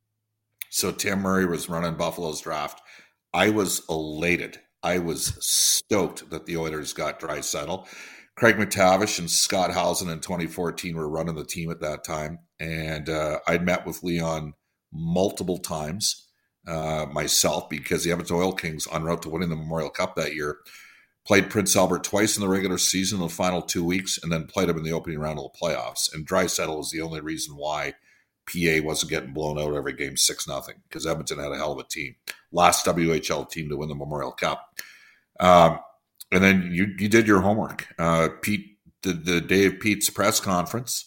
So Tim Murray was running Buffalo's draft. I was elated. I was stoked that the Oilers got Draisaitl. Craig McTavish and Scott Housen in twenty fourteen were running the team at that time. And uh, I'd met with Leon multiple times uh, myself because the Edmonton Oil Kings, en route to winning the Memorial Cup that year, played Prince Albert twice in the regular season in the final two weeks and then played him in the opening round of the playoffs. And Draisaitl was the only reason why P A wasn't getting blown out every game six nothing because Edmonton had a hell of a team. Last W H L team to win the Memorial Cup. Um, and then you you did your homework. Uh, Pete, the, the day of Pete's press conference,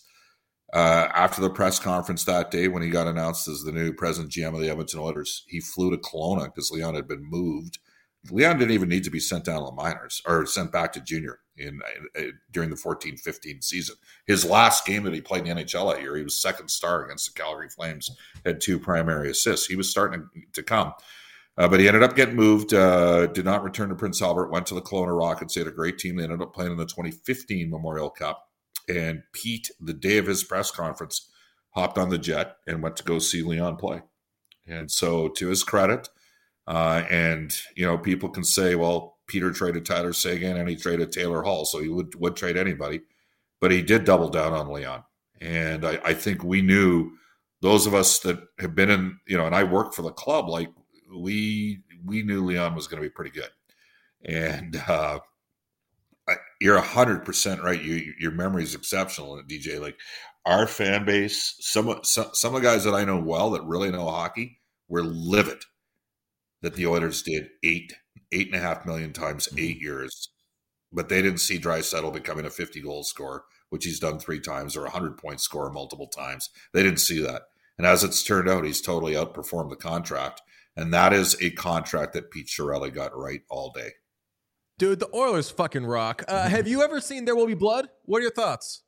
uh, after the press conference that day when he got announced as the new president G M of the Edmonton Oilers, he flew to Kelowna because Leon had been moved. Leon didn't even need to be sent down to the minors or sent back to junior in uh, during the fourteen fifteen season. His last game that he played in the N H L that year, he was second star against the Calgary Flames, had two primary assists. He was starting to come. Uh, but he ended up getting moved, uh, did not return to Prince Albert, went to the Kelowna Rockets. They had a great team. They ended up playing in the twenty fifteen Memorial Cup. And Pete, the day of his press conference, hopped on the jet and went to go see Leon play. And so to his credit, Uh, and, you know, people can say, well, Peter traded Tyler Seguin and he traded Taylor Hall, so he would, would trade anybody. But he did double down on Leon. And I, I think we knew, those of us that have been in, you know, and I worked for the club, like we we knew Leon was going to be pretty good. And uh, I, you're one hundred percent right. You, your memory is exceptional, D J. Like our fan base, some, some, some of the guys that I know well that really know hockey were livid that the Oilers did eight, eight and a half million times eight years, but they didn't see Draisaitl becoming a fifty-goal scorer, which he's done three times, or a hundred-point scorer multiple times. They didn't see that. And as it's turned out, he's totally outperformed the contract, and that is a contract that Pete Chiarelli got right all day. Dude, the Oilers fucking rock. Uh, have you ever seen There Will Be Blood? What are your thoughts?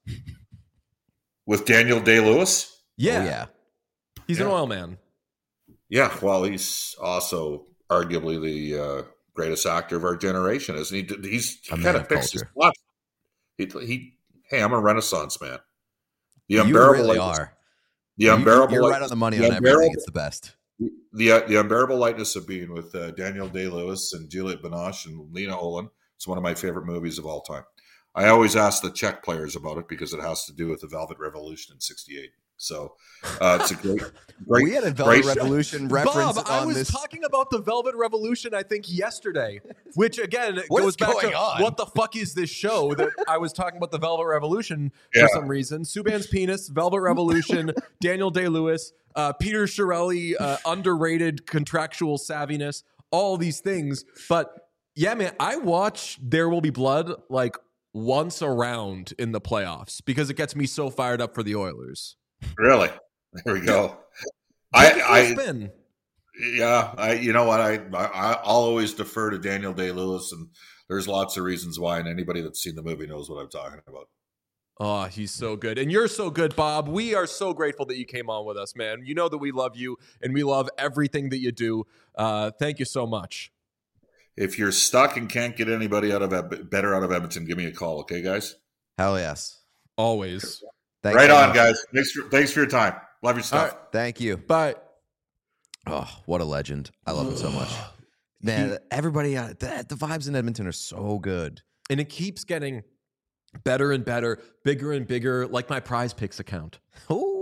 With Daniel Day-Lewis? Yeah. Oh, yeah. He's yeah. an oil man. Yeah, well, he's also arguably the uh, greatest actor of our generation, isn't he? He's he kind of picks his spot. He, he, hey, I'm a Renaissance man. The you unbearable really lightness, are. The unbearable. You're light, right on the money on everything. It's the best. The uh, the unbearable lightness of being with uh, Daniel Day-Lewis and Juliette Binoche and Lena Olin. It's one of my favorite movies of all time. I always ask the Czech players about it because it has to do with the Velvet Revolution in sixty-eight. So uh, it's a great, great. We had a Velvet great Revolution reference Bob, on I was this. talking about the Velvet Revolution, I think, yesterday, which again What goes is back going to on? what the fuck is this show that I was talking about the Velvet Revolution Yeah. for some reason. Subban's penis, Velvet Revolution, Daniel Day-Lewis, uh, Peter Chiarelli, uh, underrated contractual savviness, all these things. But yeah, man, I watch There Will Be Blood like once a round in the playoffs because it gets me so fired up for the Oilers. Really? There we go. Take it for a I, I, spin. yeah, I, you know what? I, I, I'll always defer to Daniel Day-Lewis, and there's lots of reasons why, and anybody that's seen the movie knows what I'm talking about. Oh, he's so good. And you're so good, Bob. We are so grateful that you came on with us, man. You know that we love you, and we love everything that you do. Uh, thank you so much. If you're stuck and can't get anybody out of better out of Edmonton, give me a call, okay, guys? Hell yes. Always. Thanks right so on, much. guys. Thanks for, thanks for your time. Love your stuff. All right. Thank you. Bye. Oh, what a legend. I love him so much. Man, everybody, uh, the, the vibes in Edmonton are so good. And it keeps getting better and better, bigger and bigger, like my Prize Picks account. Ooh.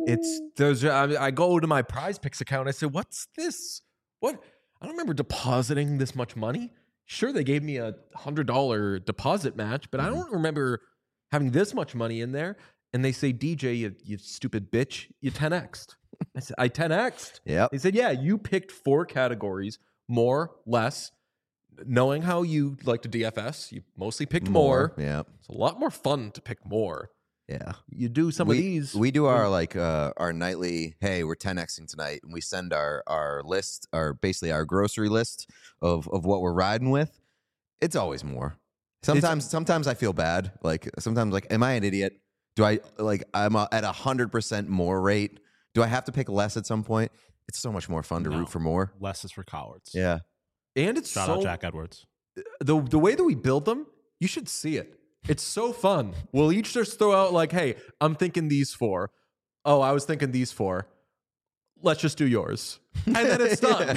It's there's I, I go to my Prize Picks account. I said, "What's this? What? I don't remember depositing this much money. Sure, they gave me a hundred dollar deposit match, but mm-hmm. I don't remember having this much money in there." And they say, "D J, you, you stupid bitch, you ten X'd." I said, "I ten X'd." Yeah. They said, "Yeah, you picked four categories, more, less." Knowing how you like to D F S, you mostly picked more. more. Yeah, it's a lot more fun to pick more. Yeah, you do some we, of these. We do our like uh, our nightly. Hey, we're ten Xing tonight, and we send our our list, our basically our grocery list of of what we're riding with. It's always more. Sometimes, it's, sometimes I feel bad. Like sometimes, like, am I an idiot? Do I like I'm a, at a hundred percent more rate? Do I have to pick less at some point? It's so much more fun to no, root for more. Less is for cowards. Yeah. And it's Shout so, out Jack Edwards. The the way that we build them, you should see it. It's so fun. We'll each just throw out like, "Hey, I'm thinking these four. Oh, I was thinking these four. Let's just do yours." And then it's done.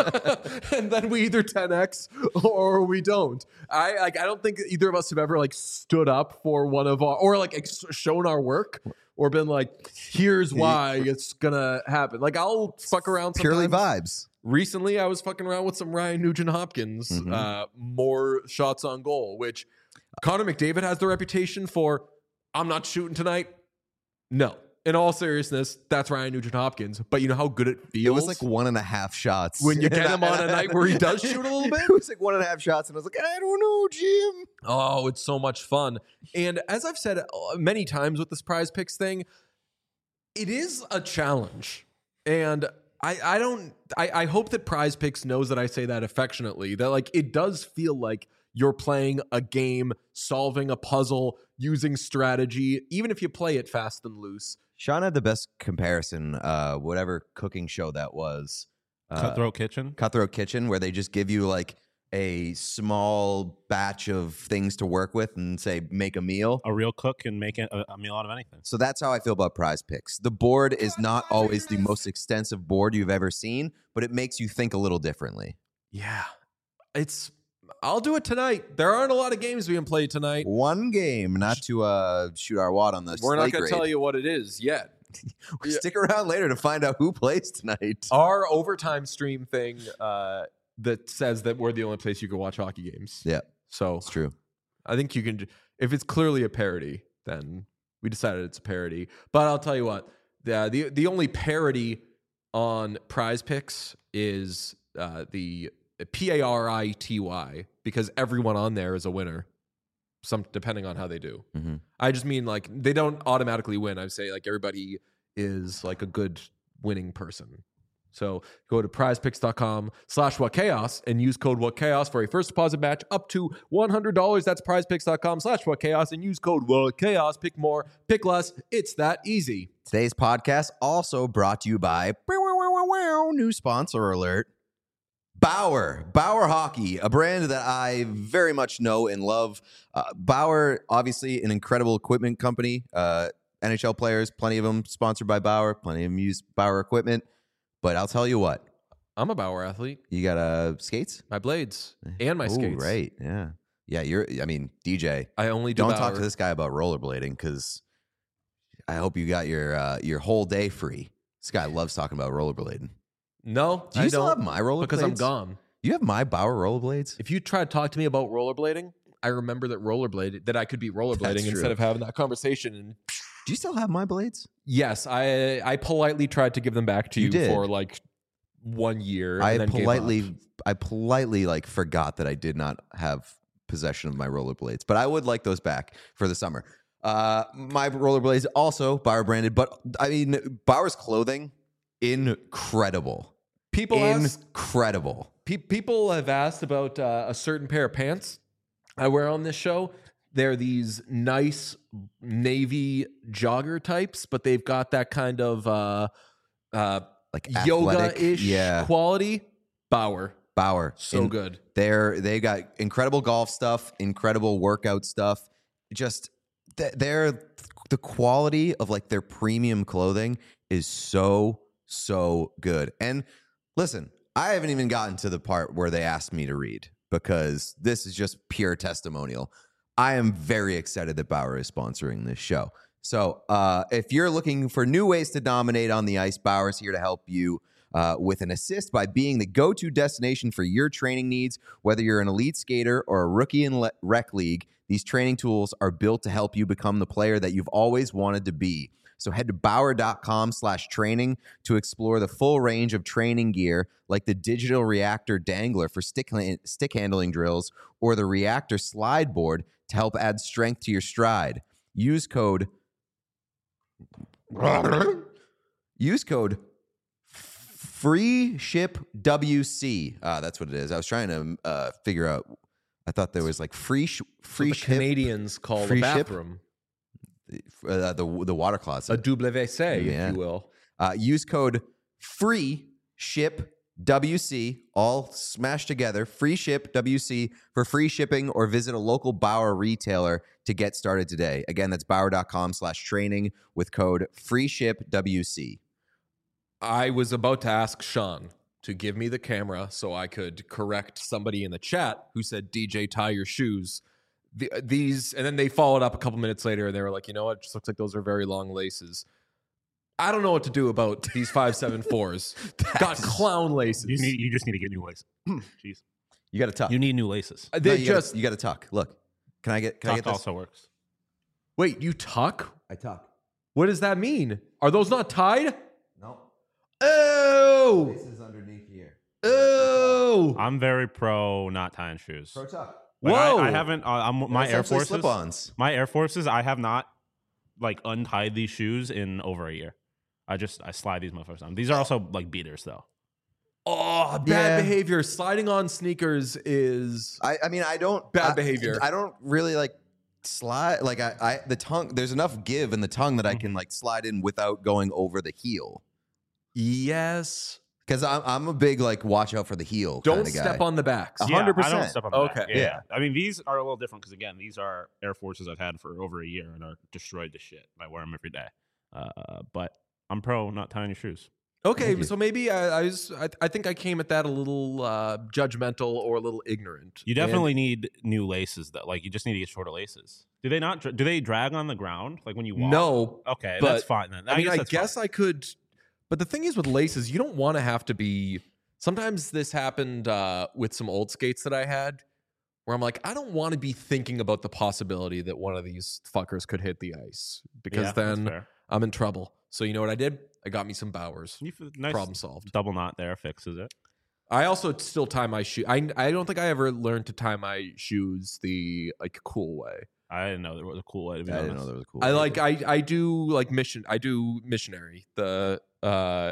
And then we either ten X or we don't. I like I don't think either of us have ever like stood up for one of our or like ex- shown our work or been like, "Here's why it's gonna happen." Like I'll fuck around sometimes. Purely vibes. Recently, I was fucking around with some Ryan Nugent-Hopkins, mm-hmm. uh, more shots on goal, which Connor McDavid has the reputation for, "I'm not shooting tonight." No. In all seriousness, that's Ryan Nugent-Hopkins. But you know how good it feels? It was like one and a half shots. When you get him on a night where he does shoot a little bit? It was like one and a half shots, and I was like, I don't know, Jim. Oh, it's so much fun. And as I've said many times with this Prize Picks thing, it is a challenge. And I, I don't I, I hope that Prize Picks knows that I say that affectionately, that like it does feel like you're playing a game, solving a puzzle, using strategy, even if you play it fast and loose. Sean had the best comparison, uh, whatever cooking show that was. Uh, Cutthroat Kitchen? Cutthroat Kitchen, where they just give you like a small batch of things to work with and say, make a meal. A real cook can make a, a meal out of anything. So that's how I feel about Prize Picks. The board is not always the most extensive board you've ever seen, but it makes you think a little differently. Yeah. It's... I'll do it tonight. There aren't a lot of games being played tonight. One game, not to uh, shoot our wad on the We're not going to tell you what it is yet. Stick around later to find out who plays tonight. Our overtime stream thing uh, that says that we're the only place you can watch hockey games. Yeah. So it's true. I think you can, if it's clearly a parody, then we decided it's a parody. But I'll tell you what, the the, the only parody on Prize Picks is uh, the P A R I T Y, because everyone on there is a winner, some depending on how they do. Mm-hmm. I just mean like they don't automatically win. I say like everybody is like a good winning person. So go to prizepicks.com slash what chaos and use code what chaos for a first deposit match up to one hundred dollars. That's prizepicks.com slash what chaos and use code what chaos. Pick more, pick less. It's that easy. Today's podcast also brought to you by new sponsor alert. Bauer, Bauer Hockey, a brand that I very much know and love. Uh, Bauer, obviously an incredible equipment company. Uh, N H L players, plenty of them sponsored by Bauer. Plenty of them use Bauer equipment. But I'll tell you what. I'm a Bauer athlete. You got uh, skates? My blades and my Ooh, skates. Right, yeah. Yeah, you're, I mean, D J. I only do Don't Bauer. talk to this guy about rollerblading because I hope you got your uh, your whole day free. This guy loves talking about rollerblading. No, Do you I still don't, have my rollerblades? because I'm gone. You have my Bauer rollerblades? If you try to talk to me about rollerblading, I remember that rollerblade that I could be rollerblading That's true. instead of having that conversation. And Do you still have my blades? yes, I I politely tried to give them back to You you, did. for like one year. I and then gave politely, up. I politely like forgot that I did not have possession of my rollerblades, but I would like those back for the summer. Uh, my rollerblades also Bauer branded, but I mean Bauer's clothing, incredible. People ask, Incredible. pe- people have asked about uh, a certain pair of pants I wear on this show. They're these nice navy jogger types, but they've got that kind of uh, uh, Like yoga-ish yeah. quality. Bauer, Bauer, so In- good. They're they got incredible golf stuff, incredible workout stuff. Just th- they're the quality of like their premium clothing is so so good. And listen, I haven't even gotten to the part where they asked me to read because this is just pure testimonial. I am very excited that Bauer is sponsoring this show. So uh, if you're looking for new ways to dominate on the ice, Bauer's here to help you uh, with an assist by being the go-to destination for your training needs. Whether you're an elite skater or a rookie in le- rec league, these training tools are built to help you become the player that you've always wanted to be. So head to Bauer.com slash training to explore the full range of training gear like the Digital Reactor Dangler for stick, stick handling drills or the Reactor Slide Board to help add strength to your stride. Use code Use code free ship W C. Ah, that's what it is. I was trying to uh, figure out. I thought there was like free sh- free the ship. Canadians call free a ship? bathroom Uh, the the water closet. a W C, Yeah. if you will. Uh, use code free ship W C, all smashed together. Free ship W C for free shipping, or visit a local Bauer retailer to get started today. Again, that's Bauer.com slash training with code free ship W C. I was about to ask Sean to give me the camera so I could correct somebody in the chat who said, D J, tie your shoes. The, these, and then they followed up a couple minutes later and they were like, you know what? It just looks like those are very long laces. I don't know what to do about these five seven fours. Got clown laces. You need. You just need to get new laces. Jeez. You got to tuck. You need new laces. They No, you just gotta, you got to tuck. Look, can I get? Can I Tuck get this? also works. wait. You tuck? I tuck. What does that mean? Are those not tied? No, Oh, this is underneath here. oh. I'm very pro not tying shoes. Pro tuck. Like, I, Whoa. I haven't. Uh, I'm my Air Forces. Slip-ons. My Air Forces. I have not like untied these shoes in over a year. I just I slide these motherfuckers on. These are also like beaters though. Oh, bad Yeah. behavior. Sliding on sneakers is I, I mean, I don't Bad I- behavior. I don't really like slide. Like I, I, the tongue. There's enough give in the tongue that I can like slide in without going over the heel. yes. Because I'm, I'm a big like watch out for the heel. Don't kinda step guy. on the backs. A Yeah, hundred I don't percent. step on the Okay. back. Yeah, Yeah. yeah. I mean, these are a little different because again, these are Air Forces I've had for over a year and are destroyed to shit. I wear them every day. Uh, but I'm pro not tying your shoes. Okay, Thank you. so maybe I, I was. I, I think I came at that a little uh, judgmental or a little ignorant. You definitely need new laces though. Like you just need to get shorter laces. Do they not? dra- Do they drag on the ground like when you And walk? no. Okay, but- that's fine then. I mean, I that's guess fine. I could. But the thing is with laces, you don't want to have to be. Sometimes this happened uh, with some old skates that I had, where I'm like, I don't want to be thinking about the possibility that one of these fuckers could hit the ice because Yeah, that's then fair. I'm in trouble. So you know what I did? I got me some Bowers. You f- nice Problem solved. double knot there fixes it. I also still tie my shoe. I I don't think I ever learned to tie my shoes the like cool way. I didn't know there was a cool way to be I honest. didn't know there was a cool. I way to like do it. I I do like mission. I do missionary. The uh,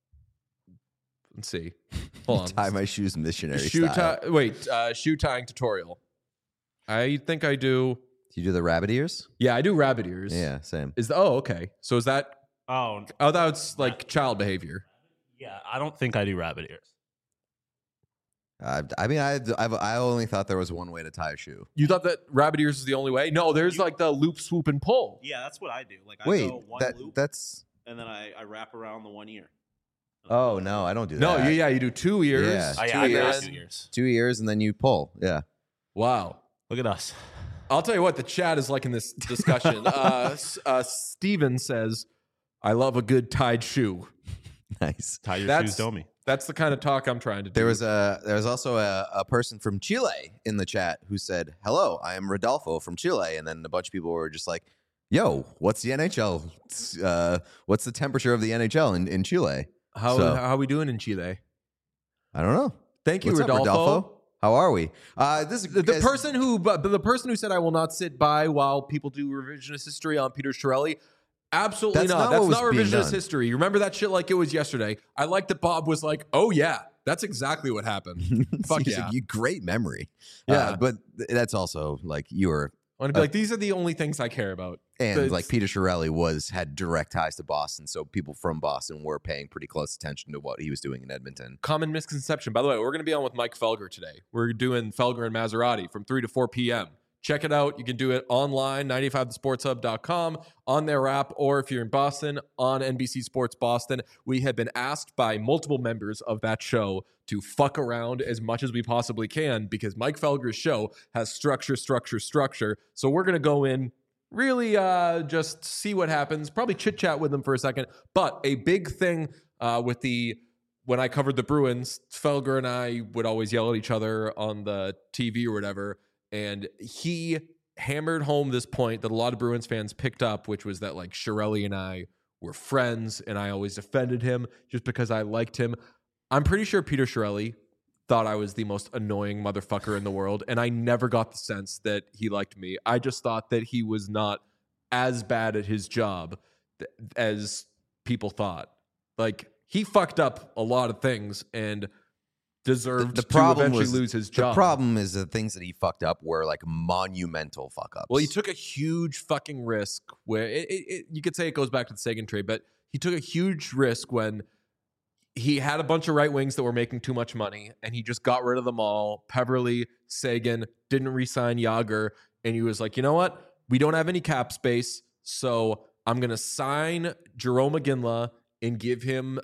let's see. Hold on. tie my shoes missionary shoe style. tie. Wait, uh, shoe tying tutorial. I think I do. Do you do the rabbit ears? Yeah, I do rabbit ears. Yeah, same. Is the, oh okay? So is that? Oh, Oh, that's like child behavior. yeah. I don't think I do rabbit ears. I, I mean, I, I've, I only thought there was one way to tie a shoe. You thought that rabbit ears is the only way? No, there's like the loop, swoop, and pull. Yeah, that's what I do. Like I Wait, go one that loop that's. and then I, I wrap around the one ear. Oh no, I don't do No, that. yeah, yeah, you do two ears. Yeah. Oh, two yeah, I got ears. two ears. Two ears and then you pull. Yeah. Wow. Look at us. I'll tell you what, the chat is like in this discussion. uh, S- uh, Steven says, I love a good tied shoe. Nice. Tie your That's- shoes, Domi. That's the kind of talk I'm trying to do. There was a there was also a, a person from Chile in the chat who said, "Hello, I am Rodolfo from Chile," and then a bunch of people were just like, "Yo, what's the N H L? Uh, what's the temperature of the N H L in, in Chile?" how, so- how are we doing in Chile? I don't know. Thank you, What's up, Rodolfo. Rodolfo? How are we? Uh, this is The, the as- person who, but the person who said I will not sit by while people do revisionist history on Peter Chiarelli. Absolutely That's not. not That's what not was being revisionist done. history. You remember that shit like it was yesterday. I like that Bob was like, "Oh yeah, that's exactly what happened." Fuck He's yeah. like, you great memory. Yeah. Uh, but th- that's also like you were, I want to be like, these are the only things I care about. and It's- like Peter Chiarelli was had direct ties to Boston, so people from Boston were paying pretty close attention to what he was doing in Edmonton. Common misconception. By the way, we're going to be on with Mike Felger today. We're doing Felger and Maserati from three to four p.m. Check it out. You can do it online, ninety-five the sports hub dot com, on their app, or if you're in Boston, on N B C Sports Boston. We have been asked by multiple members of that show to fuck around as much as we possibly can because Mike Felger's show has structure, structure, structure. So we're going to go in really uh, just see what happens. Probably chit chat with him for a second. But a big thing uh, with the when I covered the Bruins, Felger and I would always yell at each other on the T V or whatever, and he hammered home this point that a lot of Bruins fans picked up, which was that like Chiarelli and I were friends, and I always defended him just because I liked him. I'm pretty sure Peter Chiarelli thought I was the most annoying motherfucker in the world, and I never got the sense that he liked me. I just thought that he was not as bad at his job th- as people thought. Like, he fucked up a lot of things and deserved The, the to problem eventually was, lose his job. The problem is the things that he fucked up were like monumental fuck ups. Well, he took a huge fucking risk where it, it, it, you could say it goes back to the Sagan trade, but he took a huge risk when he had a bunch of right wings that were making too much money, and he just got rid of them all. Peverly, Sagan, didn't re-sign Yager, and he was like, you know what? We don't have any cap space, so I'm going to sign Jerome Iginla and give him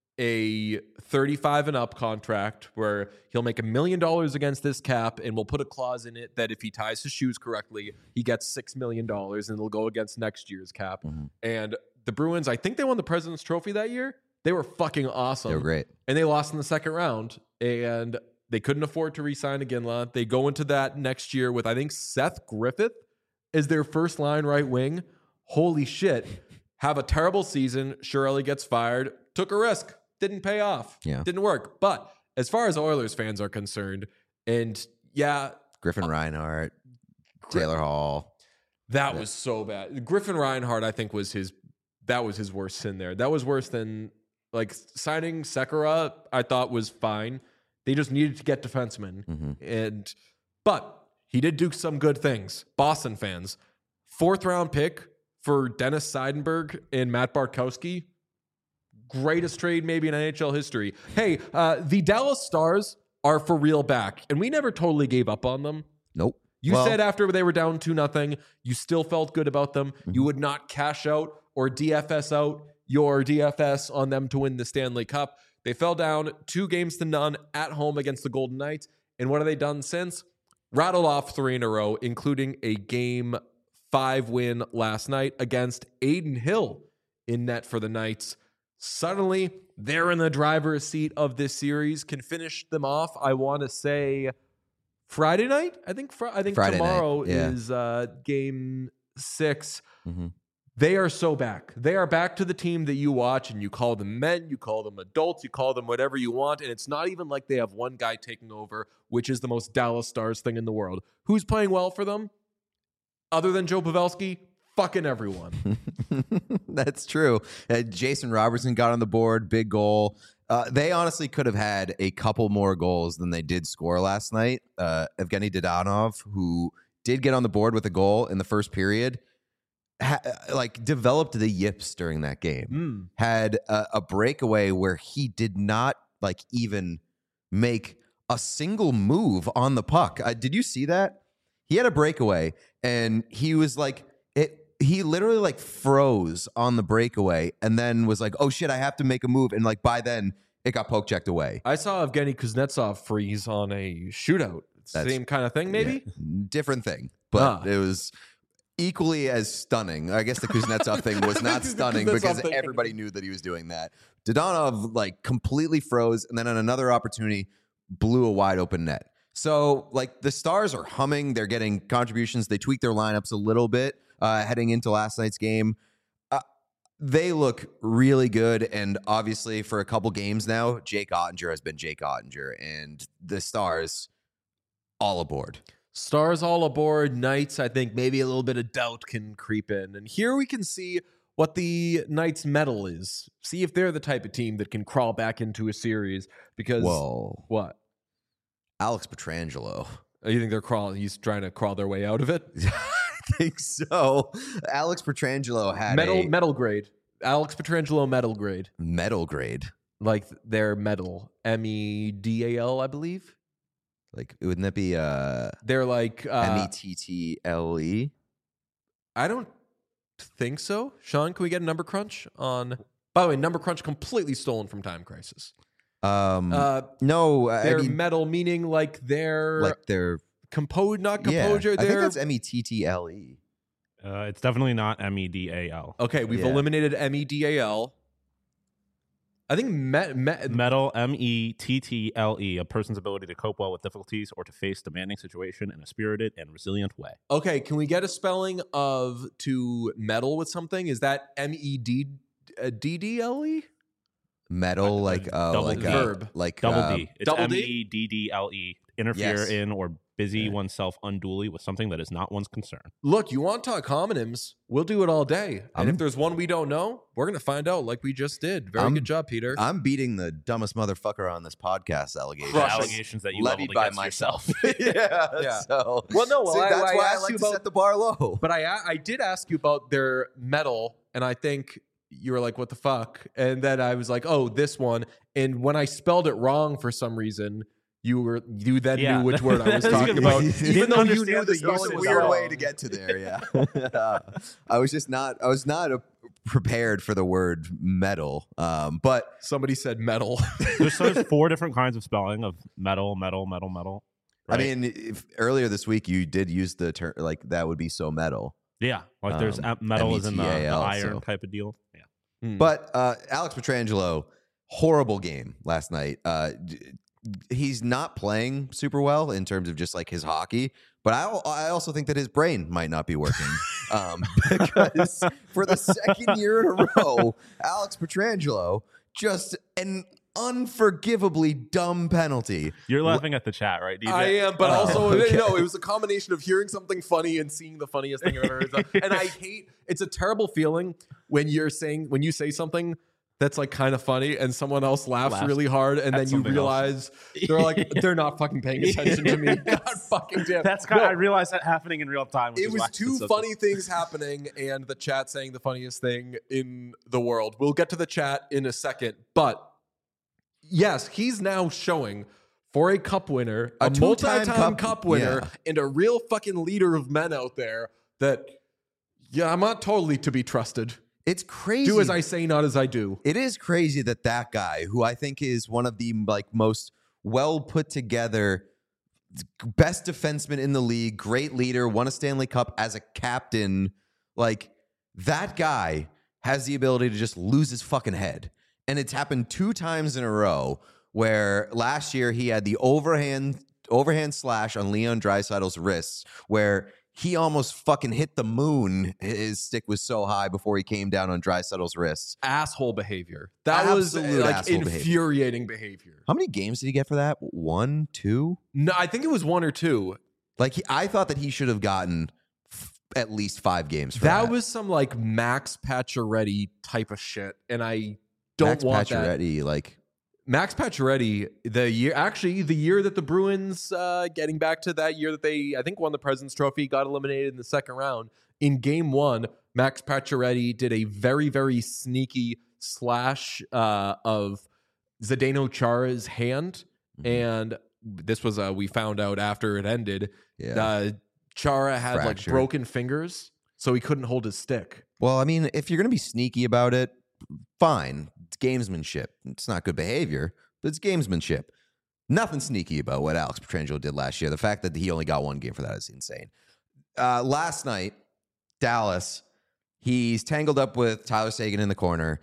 a thirty-five and up contract where he'll make a million dollars against this cap, and we'll put a clause in it that if he ties his shoes correctly, he gets six million dollars, and it'll go against next year's cap. Mm-hmm. And the Bruins, I think they won the President's Trophy that year. They were fucking awesome. They were great. And they lost in the second round, and they couldn't afford to re-sign Iginla. They go into that next year with, I think, Seth Griffith is their first line right wing. Holy shit. Have a terrible season. Chiarelli gets fired. Took a risk. Didn't pay off. Yeah. Didn't work. But as far as Oilers fans are concerned, and yeah. Griffin Reinhart, Taylor Hall. That was so bad. Griffin Reinhart, I think, was his, that was his worst sin there. That was worse than, like, signing Sekera, I thought was fine. They just needed to get defensemen. Mm-hmm. And, but he did do some good things. Boston fans, fourth round pick for Dennis Seidenberg and Matt Bartkowski. Greatest trade maybe in N H L history. Hey, uh, the Dallas Stars are for real back, and we never totally gave up on them. Nope. You Well- said after they were down two nothing, you still felt good about them. Mm-hmm. You would not cash out or D F S out your D F S on them to win the Stanley Cup. They fell down two games to none at home against the Golden Knights. And what have they done since? Rattled off three in a row, including a game five win last night against Aiden Hill in net for the Knights. Suddenly, they're in the driver's seat of this series. Can finish them off, I want to say, Friday night. I think. Fr- I think Friday tomorrow night, yeah. is uh, game six. Mm-hmm. They are so back. They are back to the team that you watch, and you call them men, you call them adults, you call them whatever you want, and it's not even like they have one guy taking over, which is the most Dallas Stars thing in the world. Who's playing well for them? Other than Joe Pavelski? Fucking everyone. That's true. Uh, Jason Robertson got on the board, big goal. Uh, they honestly could have had a couple more goals than they did score last night. Uh, Evgeny Dadonov, who did get on the board with a goal in the first period, ha- like developed the yips during that game. Mm. Had a, a breakaway where he did not like even make a single move on the puck. Uh, did you see that? He had a breakaway and he was like it. He literally like froze on the breakaway and then was like, "Oh shit, I have to make a move." And like by then, it got poke checked away. I saw Evgeny Kuznetsov freeze on a shootout. That's- Same kind of thing, maybe? Yeah, different thing, but Ah. it was equally as stunning. I guess the Kuznetsov thing was not The stunning Kuznetsov because thing. everybody knew that he was doing that. Dadonov like completely froze, and then on another opportunity, blew a wide open net. So like the Stars are humming. They're getting contributions. They tweaked their lineups a little bit uh, heading into last night's game. Uh, they look really good, and obviously for a couple games now, Jake Ottinger has been Jake Ottinger, and the Stars all aboard. Stars all aboard. Knights, I think maybe a little bit of doubt can creep in. And here we can see what the Knights' medal is. See if they're the type of team that can crawl back into a series. Because Whoa. what? Alex Pietrangelo. You think they're crawling? He's trying to crawl their way out of it. I think so. Alex Pietrangelo had Metal, a metal grade. Alex Pietrangelo metal grade. medal grade. Like their medal, M E D A L, I believe. Like, wouldn't that be uh, They're like uh, M E T T L E? I don't think so. Sean, can we get a number crunch on? By the way, number crunch completely stolen from Time Crisis. Um, Uh, no, I They're mean, metal, meaning like they're like they're composed, not yeah. composure. I think They're that's M E T T L E. Uh, it's definitely not M E D A L. Okay, we've Yeah. eliminated M E D A L. I think me, me, Metal, M E T T L E, a person's ability to cope well with difficulties or to face demanding situation in a spirited and resilient way. Okay, can we get a spelling of to meddle with something? Is that M E D D D L E? Metal, Uh, like uh, double like D. uh, Verb. like Double uh, D. It's double M D? E D D L E. Interfere Yes. in or busy Yeah. oneself unduly with something that is not one's concern. Look, you want to talk homonyms? We'll do it all day. And I'm- if there's one we don't know, we're going to find out like we just did. Very I'm- good job, Peter. I'm beating the dumbest motherfucker on this podcast allegation. The Crush it. allegations that you levied leveled by against myself. yourself. yeah, Yeah. So, Well, no, well, see, I- that's I why I asked like you to about- set the bar low. But I I did ask you about their metal, and I think you were like, "What the fuck?" And then I was like, "Oh, this one." And when I spelled it wrong for some reason, you were you then Yeah. knew which word I was That's talking good. about, You even didn't though you understand knew the the spelling It's use a was was weird wrong. way to get to there. Yeah, I was just not. I was not uh prepared for the word metal. Um, but Somebody said metal. There's, so there's four different kinds of spelling of metal, metal, metal, metal. I right? mean, if earlier this week you did use the term like that would be so metal. yeah, like there's um, a- metal is in the, the M E T A L, iron so. type of deal. Yeah. Hmm. But uh, Alex Pietrangelo, horrible game last night. Uh, d- he's not playing super well in terms of just like his hockey. But I, al- I also think that his brain might not be working um, because for the second year in a row, Alex Pietrangelo just an unforgivably dumb penalty. You're laughing at the chat, right, D J? I am, but Oh, also okay. no. It was a combination of hearing something funny and seeing the funniest thing I've ever heard. And I hate. It's a terrible feeling when you're saying when you say something that's like kind of funny and someone else laughs, Laughs really hard, and at then you something else. realize they're like they're not fucking paying attention to me. God fucking damn. That's kind. No. I realized that happening in real time. Which It is was why it's two so- funny things happening and the chat saying the funniest thing in the world. We'll get to the chat in a second, but yes, he's now showing for a cup winner, a, A two-time multi-time cup- cup, winner, yeah. and a real fucking leader of men out there that, yeah, I'm not totally to be trusted. It's crazy. Do as I say, not as I do. It is crazy that that guy, who I think is one of the like most well put together, best defenseman in the league, great leader, won a Stanley Cup as a captain, like that guy has the ability to just lose his fucking head. And it's happened two times in a row where last year he had the overhand overhand slash on Leon Draisaitl's wrists where he almost fucking hit the moon. His stick was so high before he came down on Draisaitl's wrists. Asshole behavior. That was Absolute like asshole behavior. infuriating behavior. How many games did he get for that? One, two? No, I think it was one or two. Like he, I thought that he should have gotten f- at least five games for That that. was some like Max Pacioretty type of shit, and I don't Max want that. Pacioretty, like Max Pacioretty, the year actually the year that the Bruins, uh, getting back to that year that they I think won the President's Trophy, got eliminated in the second round. In Game One, Max Pacioretty did a very very sneaky slash uh, of Zdeno Chara's hand, Mhm. and this was uh, we found out after it ended. yeah. Uh, Chara had like Fracture. broken fingers, so he couldn't hold his stick. Well, I mean, if you're gonna be sneaky about it, fine. It's gamesmanship. It's not good behavior, but it's gamesmanship. Nothing sneaky about what Alex Pietrangelo did last year. The fact that he only got one game for that is insane. Uh, last night, Dallas, he's tangled up with Tyler Seguin in the corner,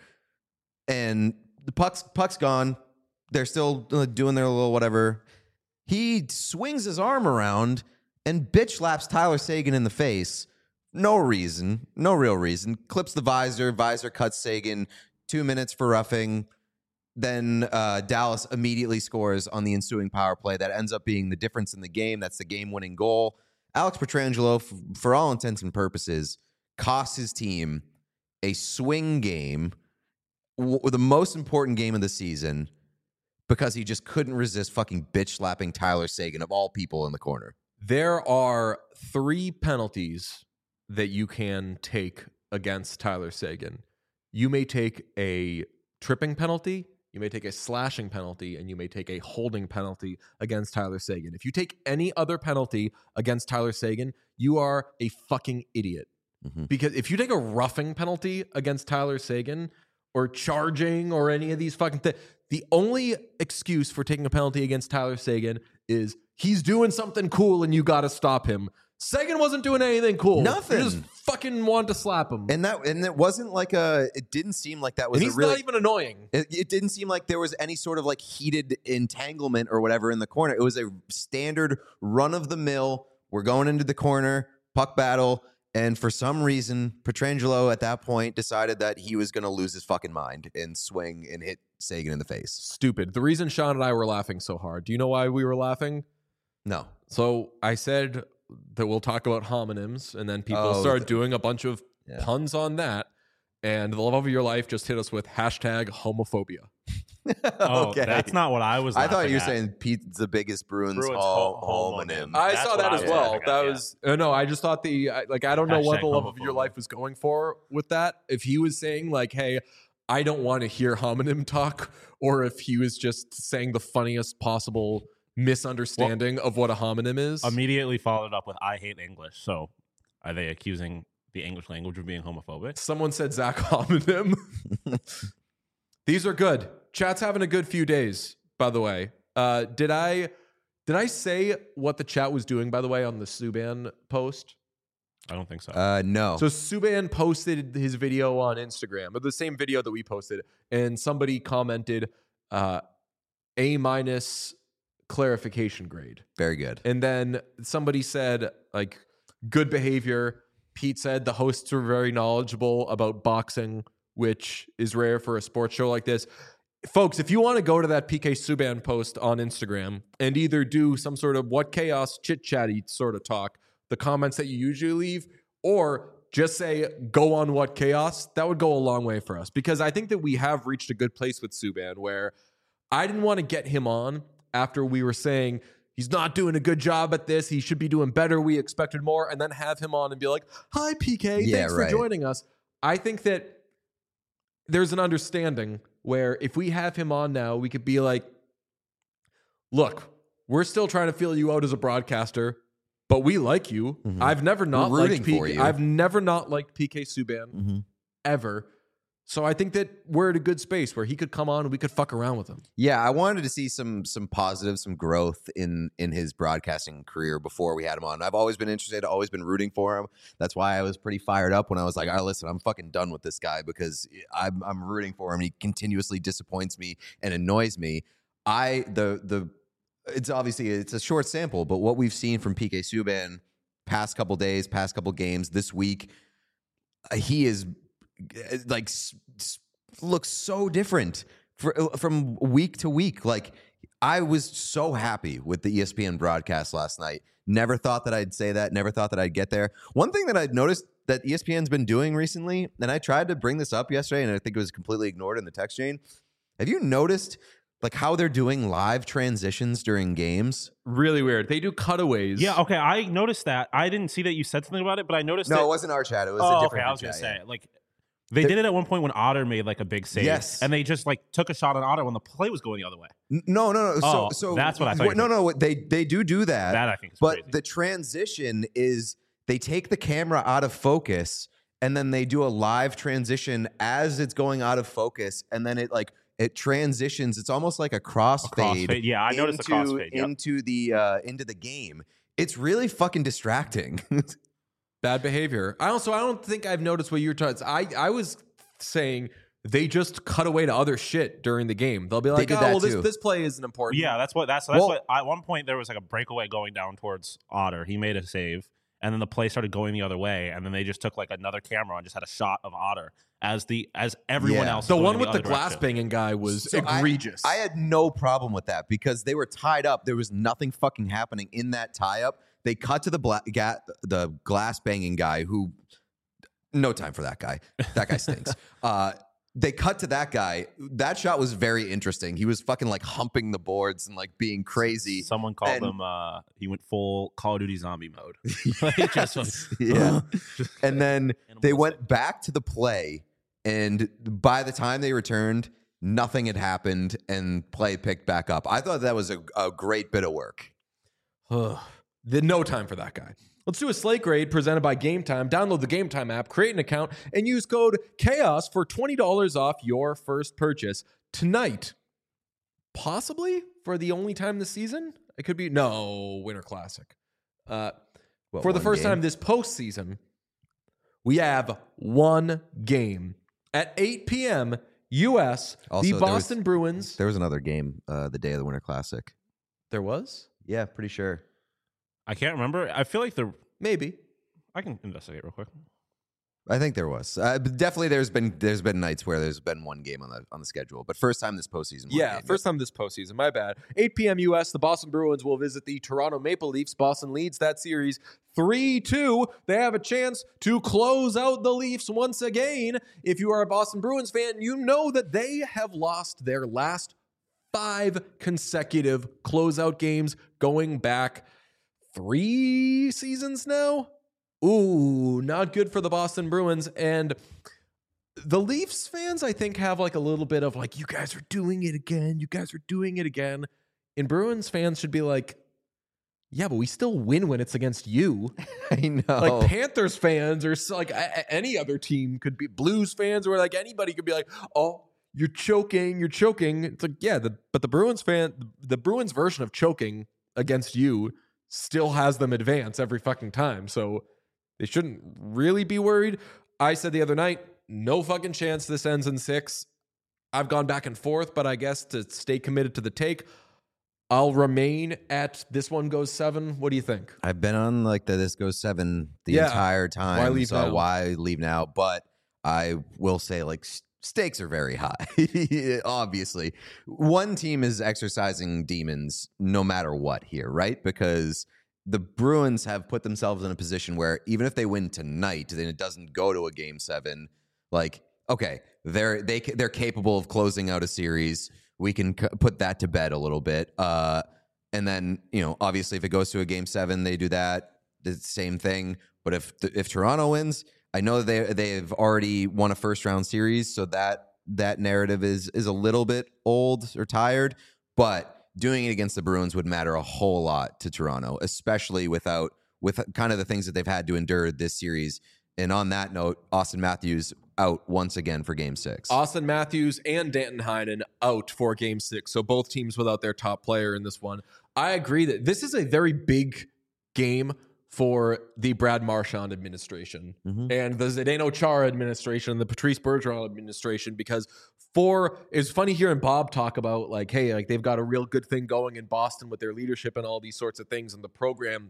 and the puck's puck's gone. They're still uh, doing their little whatever. He swings his arm around and bitch slaps Tyler Seguin in the face. No reason, no real reason. Clips the visor. Visor cuts Seguin. Two minutes for roughing. Then uh, Dallas immediately scores on the ensuing power play. That ends up being the difference in the game. That's the game-winning goal. Alex Pietrangelo, f- for all intents and purposes, cost his team a swing game, w- the most important game of the season, because he just couldn't resist fucking bitch slapping Tyler Seguin of all people in the corner. There are three penalties that you can take against Tyler Seguin. You may take a tripping penalty, you may take a slashing penalty, and you may take a holding penalty against Tyler Seguin. If you take any other penalty against Tyler Seguin, you are a fucking idiot. Mhm. Because if you take a roughing penalty against Tyler Seguin or charging or any of these fucking things, the only excuse for taking a penalty against Tyler Seguin is he's doing something cool and you got to stop him. Seguin wasn't doing anything cool. Nothing. He just fucking wanted to slap him. And that and it wasn't like a. It didn't seem like that was And a he's really. not even annoying. It, it didn't seem like there was any sort of like heated entanglement or whatever in the corner. It was a standard run of the mill. We're going into the corner, puck battle. And for some reason, Pietrangelo at that point decided that he was going to lose his fucking mind and swing and hit Sagan in the face. Stupid. The reason Sean and I were laughing so hard, do you know why we were laughing? No. So I said that we'll talk about homonyms, and then people Oh, started the- doing a bunch of Yeah. puns on that. And the love of your life just hit us with hashtag homophobia. Oh, that's not what I was. I thought you were laughing at. saying Pete's the biggest Bruins, Bruins ho- ho- homonym. homonym. I That's saw what that I as was well. laughing at, That yeah. was uh, no. I just thought the I- like I don't know what Hashtag the love of your homophobic. life was going for with that. If he was saying like, "Hey, I don't want to hear homonym talk," or if he was just saying the funniest possible misunderstanding of what a homonym is. Immediately followed up with "I hate English." So, are they accusing the English language of being homophobic? Someone said Zach homonym. These are good. Chat's having a good few days, by the way. Uh, did I did I say what the chat was doing, by the way, on the Subban post? I don't think so. Uh, no. So Subban posted his video on Instagram, but the same video that we posted, and somebody commented uh, A minus clarification grade. Very good. And then somebody said, like, good behavior. Pete said the hosts were very knowledgeable about boxing, which is rare for a sports show like this. Folks, if you want to go to that P K Subban post on Instagram and either do some sort of what chaos chit-chatty sort of talk, the comments that you usually leave, or just say, go on what chaos, that would go a long way for us. Because I think that we have reached a good place with Subban where I didn't want to get him on after we were saying, he's not doing a good job at this. He should be doing better. We expected more. And then have him on and be like, hi, P K. Yeah, Thanks right. for joining us. I think that there's an understanding where if we have him on now, we could be like, look, we're still trying to feel you out as a broadcaster, but we like you. Mhm. I've never not We're rooting liked P K. for you. I've never not liked P K Subban Mm-hmm. ever. So I think that we're at a good space where he could come on and we could fuck around with him. Yeah, I wanted to see some some positive, some growth in in his broadcasting career before we had him on. I've always been interested, always been rooting for him. That's why I was pretty fired up when I was like, "All right, listen, I'm fucking done with this guy because I'm I'm rooting for him. He continuously disappoints me and annoys me." I the the it's obviously it's a short sample, but what we've seen from P K Subban past couple days, past couple games, this week, uh, he is like s- s- looks so different for, from week to week. Like I was so happy with the E S P N broadcast last night. Never thought that I'd say that. Never thought that I'd get there. One thing that I'd noticed that E S P N's been doing recently, and I tried to bring this up yesterday, and I think it was completely ignored in the text chain. Have you noticed like how they're doing live transitions during games? Really weird. They do cutaways. Yeah, okay. I noticed that. I didn't see that you said something about it, but I noticed No, that. it wasn't our chat. It was oh, a okay. different I was group gonna chat, say yeah. like they The- did it at one point when Otter made like a big save. Yes. and they just like took a shot on Otter when the play was going the other way. N- No, no, no. So, Oh, so that's what I thought you No, no. They they do do that. That I think is but crazy. the transition is they take the camera out of focus and then they do a live transition as it's going out of focus, and then it like it transitions. It's almost like a crossfade. crossfade, yeah, I noticed the into- crossfade, yep. into the uh, into the game. It's really fucking distracting. Bad behavior. I also I don't think I've noticed what you're talking. I I was saying they just cut away to other shit during the game. They'll be like, did oh, that well, this too. this play isn't important. Yeah, that's what that's that's Well- what. At one point there was like a breakaway going down towards Otter. He made a save, and then the play started going the other way, and then they just took like another camera and just had a shot of Otter as the as everyone Yeah. else. is The going one in with the other glass direction. banging guy was So I- egregious. I, had no problem with that because they were tied up. There was nothing fucking happening in that tie up. They cut to the bla- ga- the glass banging guy who, no time for that guy. That guy stinks. uh, they cut to that guy. That shot was very interesting. He was fucking like humping the boards and like being crazy. Someone called And- him. Uh, he went full Call of Duty zombie mode. He just was- Yeah. And then they Animalistic. went back to the play, and by the time they returned, nothing had happened, and play picked back up. I thought that was a, a great bit of work. Ugh. The- no time for that guy. Let's do a slate grade presented by Game Time. Download the Game Time app, create an account, and use code CHAOS for twenty dollars off your first purchase. Tonight, possibly for the only time this season, it could be, no, Winter Classic. Uh, What, for the one first game? time this postseason, We have one game at eight p.m. U S. Also, the there Boston was- Bruins. There was another game uh, the day of the Winter Classic. There was? Yeah, pretty sure. I can't remember. I feel like the Maybe. I can investigate real quick. I think there was. Uh, but definitely, there's been there's been nights where there's been one game on the on the schedule, but first time this postseason. one Yeah, game. first time this postseason. My bad. eight p.m. U S, the Boston Bruins will visit the Toronto Maple Leafs. Boston leads that series three two. They have a chance to close out the Leafs once again. If you are a Boston Bruins fan, you know that they have lost their last five consecutive closeout games going back three seasons now. Ooh, not good for the Boston Bruins. And the Leafs fans, I think, have like a little bit of like, you guys are doing it again. You guys are doing it again. And Bruins fans should be like, yeah, but we still win when it's against you. I know. Like Panthers fans or s- like a- a- any other team could be, Blues fans or like anybody could be like, oh, you're choking, you're choking. It's like, yeah, the, but the Bruins fan, the Bruins version of choking against you still has them advance every fucking time. So they shouldn't really be worried. I said the other night, no fucking chance this ends in six. I've gone back and forth, but I guess to stay committed to the take, I'll remain at this one goes seven. What do you think? I've been on like the this goes seven the Yeah. entire time. Why leave so now? why leave now? But I will say like s- stakes are very high. Obviously, one team is exercising demons no matter what here, right? Because the Bruins have put themselves in a position where even if they win tonight, then it doesn't go to a game seven. Like, okay, they're they ca- they're capable of closing out a series. We can c- put that to bed a little bit. Uh, and then, you know, obviously, if it goes to a game seven, they do that. The same thing. But if if Toronto wins, I know they they've already won a first round series, so that that narrative is is a little bit old or tired. But doing it against the Bruins would matter a whole lot to Toronto, especially without with kind of the things that they've had to endure this series. And on that note, Austin Matthews out once again for game six. Austin Matthews and Danton Heinen out for game six. So both teams without their top player in this one. I agree that this is a very big game for the Brad Marchand administration Mhm. and the Zdeno Chara administration and the Patrice Bergeron administration, because for it's funny hearing Bob talk about like, hey, like they've got a real good thing going in Boston with their leadership and all these sorts of things and the program.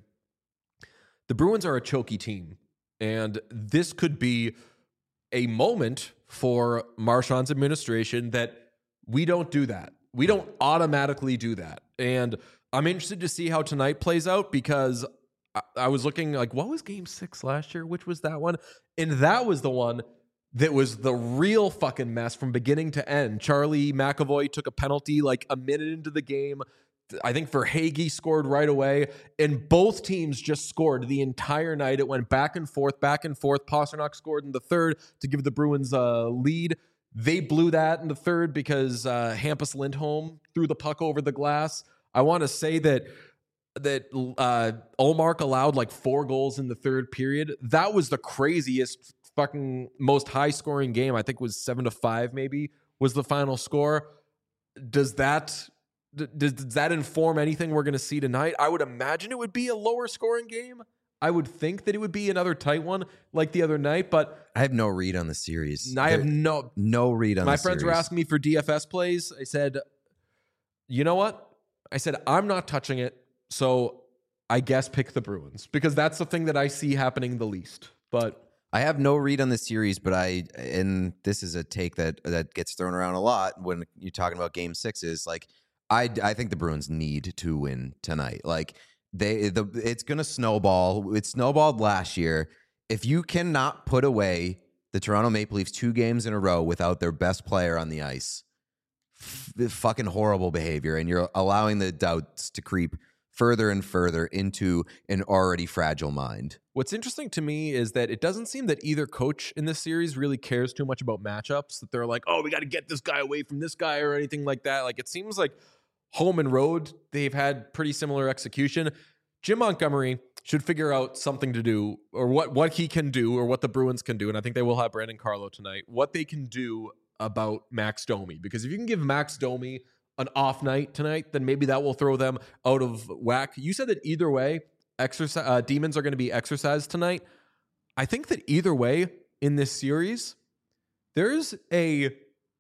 The Bruins are a choky team, and this could be a moment for Marchand's administration that we don't do that. We don't automatically do that. And I'm interested to see how tonight plays out, because I, I was looking like, what was game six last year? Which was that one? And that was the one that was the real fucking mess from beginning to end. Charlie McAvoy took a penalty like a minute into the game. I think Verhaeghe scored right away, and both teams just scored the entire night. It went back and forth, back and forth. Pasternak scored in the third to give the Bruins a lead. They blew that in the third because uh, Hampus Lindholm threw the puck over the glass. I want to say that that uh, Ullmark allowed like four goals in the third period. That was the craziest, fucking most high-scoring game. I think it was seven to five. Maybe was the final score. Does that? Does, does that inform anything we're going to see tonight? I would imagine it would be a lower scoring game. I would think that it would be another tight one like the other night, but I have no read on the series. I have There- no. no read on My the friends were series. asking me for D F S plays. I said, you know what? I said, I'm not touching it. So I guess pick the Bruins, because that's the thing that I see happening the least. But I have no read on the series, but I and this is a take that that gets thrown around a lot when you're talking about game sixes. Like I, I think the Bruins need to win tonight. Like they, the it's gonna snowball. It snowballed last year. If you cannot put away the Toronto Maple Leafs two games in a row without their best player on the ice, f- fucking horrible behavior, and you're allowing the doubts to creep further and further into an already fragile mind. what's interesting to me is that it doesn't seem that either coach in this series really cares too much about matchups, that they're like, oh, we got to get this guy away from this guy or anything like that. Like, it seems like home and road, they've had pretty similar execution. Jim Montgomery should figure out something to do, or what, what he can do, or what the Bruins can do. And I think they will have Brandon Carlo tonight, what they can do about Max Domi. Because if you can give Max Domi an off night tonight, then maybe that will throw them out of whack. You said that either way, exercise uh, demons are going to be exercised tonight. I think that either way in this series, there's a,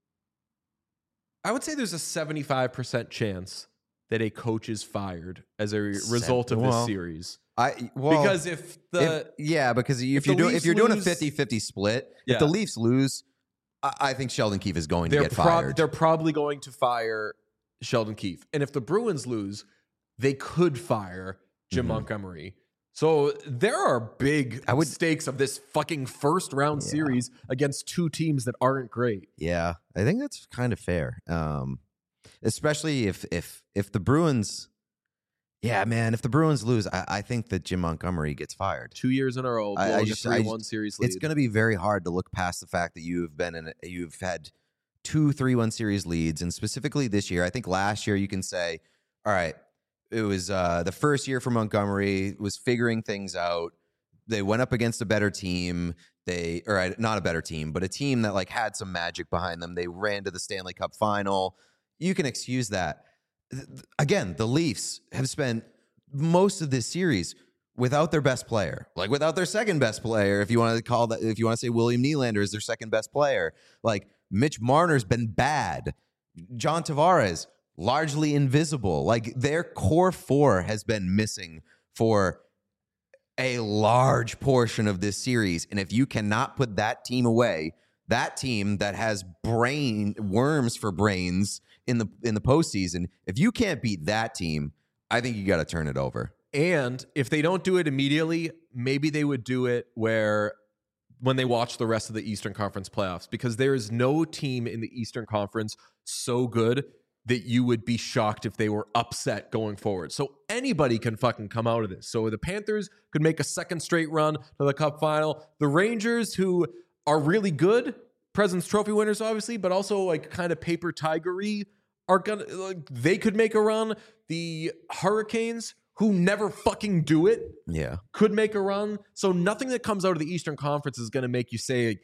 I would say there's a seventy-five percent chance that a coach is fired as a result of this well, series. I well, because if the if, yeah, because if, if you're the doing if Leafs you're doing a lose- fifty-fifty split, Yeah. if the Leafs lose, I, I think Sheldon Keefe is going to they're get prob- fired. they're probably going to fire Sheldon Keefe. And if the Bruins lose, they could fire Jim Mhm. Montgomery. So there are big I would- stakes of this fucking first round Yeah. series against two teams that aren't great. Yeah, I think that's kind of fair. Um, especially if if if the Bruins, yeah, man, if the Bruins lose, I, I think that Jim Montgomery gets fired. Two years in a row, I- I blowing just- a I three just- one series lead. It's going to be very hard to look past the fact that you've been in, a, you've had two three one series leads, and specifically this year. I think last year you can say, all right, it was uh, the first year for Montgomery, was figuring things out. They went up against a better team. They, or uh, not a better team, but a team that like had some magic behind them. They ran to the Stanley Cup final. You can excuse that. Th- th- Again, the Leafs have spent most of this series without their best player, like without their second best player. If you want to call that, if you want to say William Nylander is their second best player, like Mitch Marner's been bad. John Tavares, largely invisible. Like their core four has been missing for a large portion of this series. And if you cannot put that team away, that team that has brain worms for brains in the in the postseason, if you can't beat that team, I think you got to turn it over. And if they don't do it immediately, maybe they would do it where when they watch the rest of the Eastern Conference playoffs, because there is no team in the Eastern Conference so good that you would be shocked if they were upset going forward. So anybody can fucking come out of this. So the Panthers could make a second straight run to the Cup final. The Rangers, who are really good, President's Trophy winners, obviously, but also like kind of paper tigery, are gonna like they could make a run. The Hurricanes, who never fucking do it, Yeah. could make a run. So nothing that comes out of the Eastern Conference is going to make you say,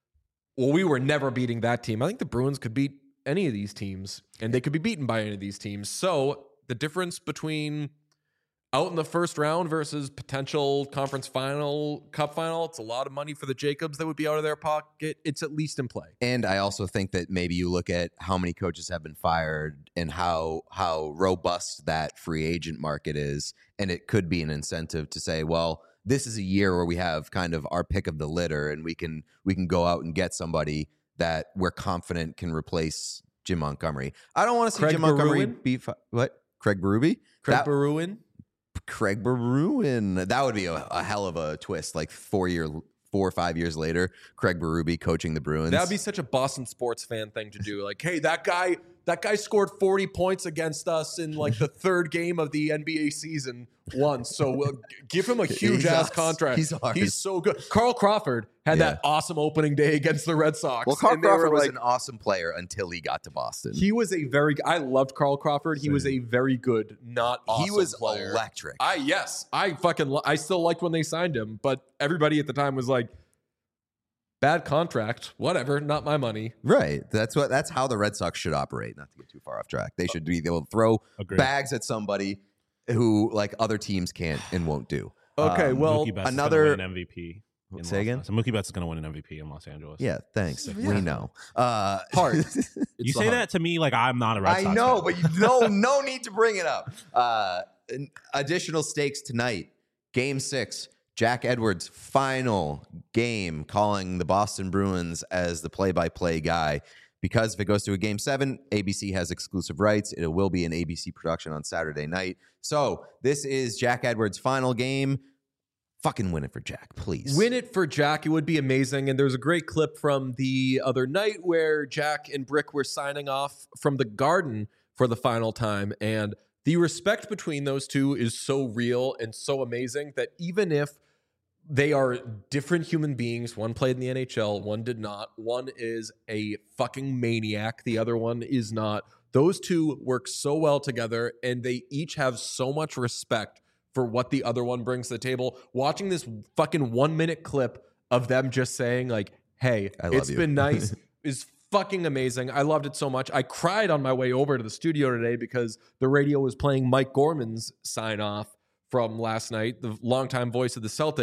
well, we were never beating that team. I think the Bruins could beat any of these teams, and they could be beaten by any of these teams. So the difference between out in the first round versus potential conference final, cup final, it's a lot of money for the Jacobs that would be out of their pocket. It's at least in play. And I also think that maybe you look at how many coaches have been fired and how how robust that free agent market is, and it could be an incentive to say, well, this is a year where we have kind of our pick of the litter, and we can we can go out and get somebody that we're confident can replace Jim Montgomery. I don't want to see Craig Jim Montgomery Berube? be fi- what Craig Berube. Craig That- Berube. Craig Berube. That would be a, a hell of a twist. Like four year, four or five years later, Craig Berube coaching the Bruins. That'd be such a Boston sports fan thing to do. Like, hey, that guy, that guy scored forty points against us in like the third game of the N B A season once. So we'll g- give him a huge He's ass us. contract. He's ours. He's so good. Carl Crawford had Yeah. that awesome opening day against the Red Sox. well, Carl and they were Crawford was like- an awesome player until he got to Boston. He was a very. I loved Carl Crawford. He was a very good, not awesome he was player. electric. I yes, I fucking. Lo- I still liked when they signed him, but everybody at the time was like, bad contract, whatever, not my money. Right. That's what. That's how the Red Sox should operate. Not to get too far off track. They should be able to throw Agreed. bags at somebody who like other teams can't and won't do. Okay, Um, well, Mookie Betts another- is gonna win an M V P. in Say Los- again? So Mookie Betts is going to win an M V P in Los Angeles. Yeah. Thanks. Yeah. We know. Uh, Hard. you it's say hard. that to me like I'm not a Red I Sox know, fan. but you no no need to bring it up. Uh, an- additional stakes tonight. Game six. Jack Edwards' final game, calling the Boston Bruins as the play-by-play guy. Because if it goes to a game seven, A B C has exclusive rights. It will be an A B C production on Saturday night. So this is Jack Edwards' final game. Fucking win it for Jack, please. Win it for Jack. It would be amazing. And there's a great clip from the other night where Jack and Brick were signing off from the Garden for the final time. And the respect between those two is so real and so amazing that even if they are different human beings, one played in the N H L, one did not, one is a fucking maniac, the other one is not. Those two work so well together, and they each have so much respect for what the other one brings to the table. Watching this fucking one minute clip of them just saying like, hey, I love it's you. been nice is fucking amazing. I loved it so much. I cried on my way over to the studio today because the radio was playing Mike Gorman's sign off from last night, the longtime voice of the Celtics,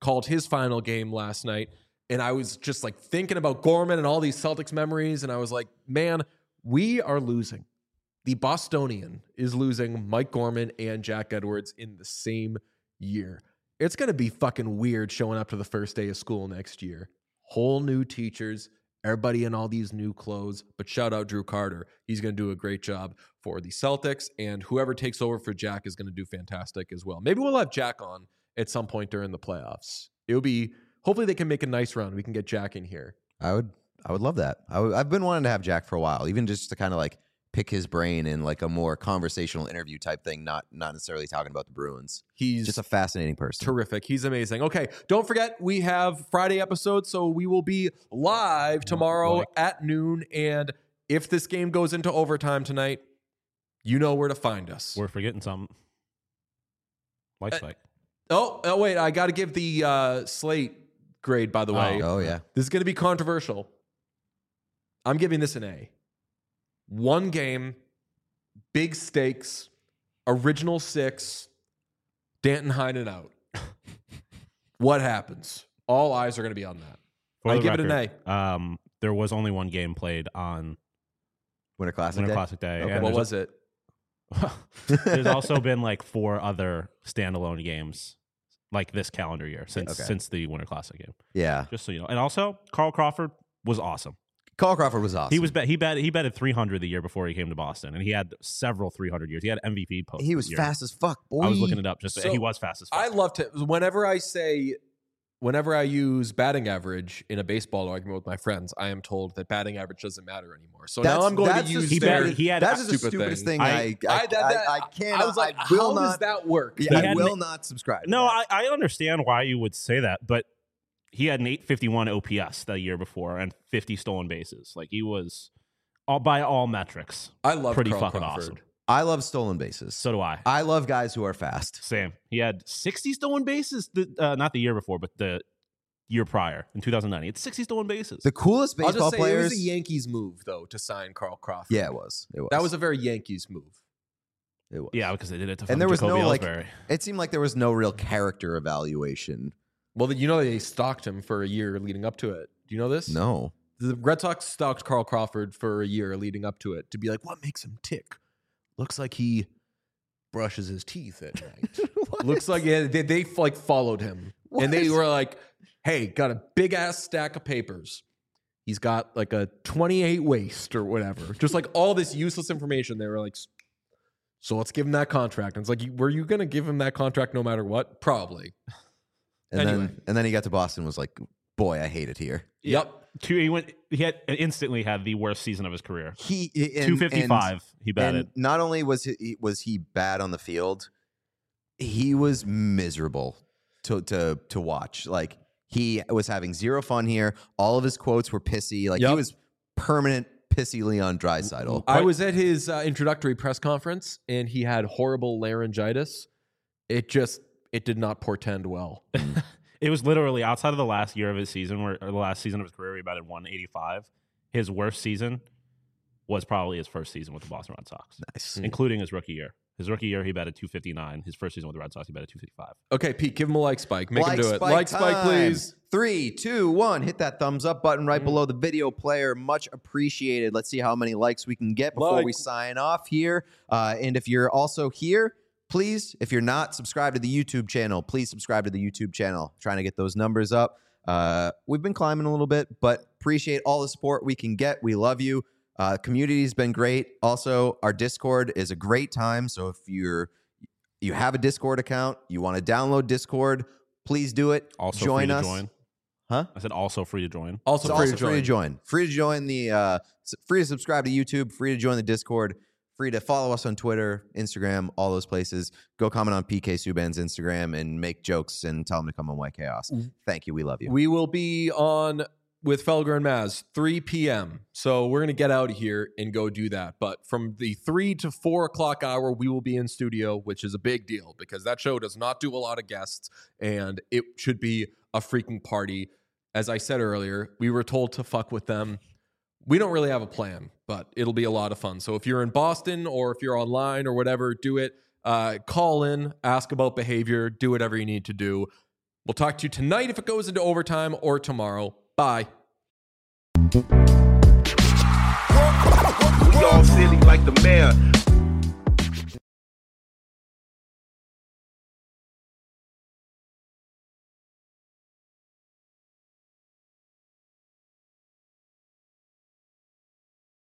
called his final game last night. And I was just like thinking about Gorman and all these Celtics memories. And I was like, man, we are losing. The Bostonian is losing Mike Gorman and Jack Edwards in the same year. It's going to be fucking weird showing up to the first day of school next year. Whole new teachers, everybody in all these new clothes. But shout out Drew Carter. He's going to do a great job for the Celtics. And whoever takes over for Jack is going to do fantastic as well. Maybe we'll have Jack on at some point during the playoffs. It would be, hopefully they can make a nice run. We can get Jack in here. I would, I would love that. I w- I've been wanting to have Jack for a while, even just to kind of like pick his brain in like a more conversational interview type thing, not not necessarily talking about the Bruins. He's just a fascinating person. Terrific. He's amazing. Okay, don't forget we have Friday episodes, so we will be live tomorrow like. at noon. And if this game goes into overtime tonight, you know where to find us. We're forgetting something. Like Uh, spike. Oh, oh wait, I got to give the uh, slate grade, by the way. Oh yeah. This is going to be controversial. I'm giving this an A. One game, big stakes, original six, Danton Heinen out. What happens? All eyes are going to be on that. For I the give it an record, Um, there was only one game played on Winter Classic Winter Day? Classic Day. Okay. and What there's- was it? There's also been like four other standalone games like this calendar year since Okay. since the Winter Classic game. Yeah. Just so you know. And also, Carl Crawford was awesome. Carl Crawford was awesome. He was bet he bet he betted three hundred the year before he came to Boston, and he had several three hundred years. He had M V P post. He was year. fast as fuck, boy. I was looking it up. Just So, he was fast as fuck. I love to, whenever I say, whenever I use batting average in a baseball argument with my friends, I am told that batting average doesn't matter anymore. So That's- now I'm going that's to the use He their, bet- he had That's just the stupid stupidest thing. thing. I, I, I- I, I- that- that- I, cannot. I was like, I will how not, does that work? Yeah, I had- will not subscribe. To no, that. I, I understand why you would say that, but he had an eight fifty-one O P S the year before and fifty stolen bases. Like he was all by all metrics. I love Pretty Carl fucking Crawford. awesome. I love stolen bases. So do I. I love guys who are fast. Same. He had sixty stolen bases. The, uh, not the year before, but the year prior in two thousand nine. He had sixty stolen bases. The coolest I'll baseball just say players. it was a Yankees move, though, to sign Carl Crawford. Yeah, it was. It was. That was a very Yankees move. It was. yeah, because they did it to And there was Jacoby no like. Ellsbury. It seemed like there was no real character evaluation. Well, you know they stalked him for a year leading up to it. Do you know this? No. The Red Sox stalked Carl Crawford for a year leading up to it to be like, what makes him tick? Looks like he brushes his teeth at night. Looks like yeah, they, they like followed him. And they What? were like, hey, got a big ass stack of papers. He's got like a twenty-eight waist or whatever. Just like all this useless information. They were like, so let's give him that contract. And it's like, were you going to give him that contract no matter what? Probably. And Anyway. then and then he got to Boston and was like, boy, I hate it here. Yep. Two, he went. He had instantly had the worst season of his career. He and, Two fifty five. He And, batted. and not only was he was he bad on the field, he was miserable to to to watch. Like he was having zero fun here. All of his quotes were pissy. Like he Yep. was permanent pissy Leon Draisaitl. I was at his uh, introductory press conference and he had horrible laryngitis. It just, it did not portend well. It was literally outside of the last year of his season, where or the last season of his career, he batted one eighty-five. His worst season was probably his first season with the Boston Red Sox, Nice. including his rookie year. His rookie year, he batted two fifty-nine. His first season with the Red Sox, he batted two fifty-five. Okay, Pete, give him a like spike. Make Like him do it. Spike Like spike, time. please. Three, two, one. Hit that thumbs up button right below the video player. Much appreciated. Let's see how many likes we can get before Like. we sign off here. Uh, and if you're also here, please, if you're not subscribed to the YouTube channel, please subscribe to the YouTube channel. Trying to get those numbers up. Uh, we've been climbing a little bit, but appreciate all the support we can get. We love you. Uh, community's been great. Also, our Discord is a great time. So if you're you have a Discord account, you want to download Discord, please do it. Also join free to us. join. Huh? I said also free to join. Also It's free also to join. free to join. Free to join the uh, s- free to subscribe to YouTube. Free to join the Discord. Free to follow us on Twitter, Instagram, all those places. Go comment on P K Subban's Instagram and make jokes and tell him to come on White Chaos. Thank you. We love you. We will be on with Felger and Maz, three p.m. So we're going to get out of here and go do that. But from the three to four o'clock hour, we will be in studio, which is a big deal because that show does not do a lot of guests and it should be a freaking party. As I said earlier, we were told to fuck with them. We don't really have a plan, but it'll be a lot of fun. So if you're in Boston or if you're online or whatever, do it. Uh, call in, ask about behavior, do whatever you need to do. We'll talk to you tonight if it goes into overtime or tomorrow. Bye. We all silly like the mayor.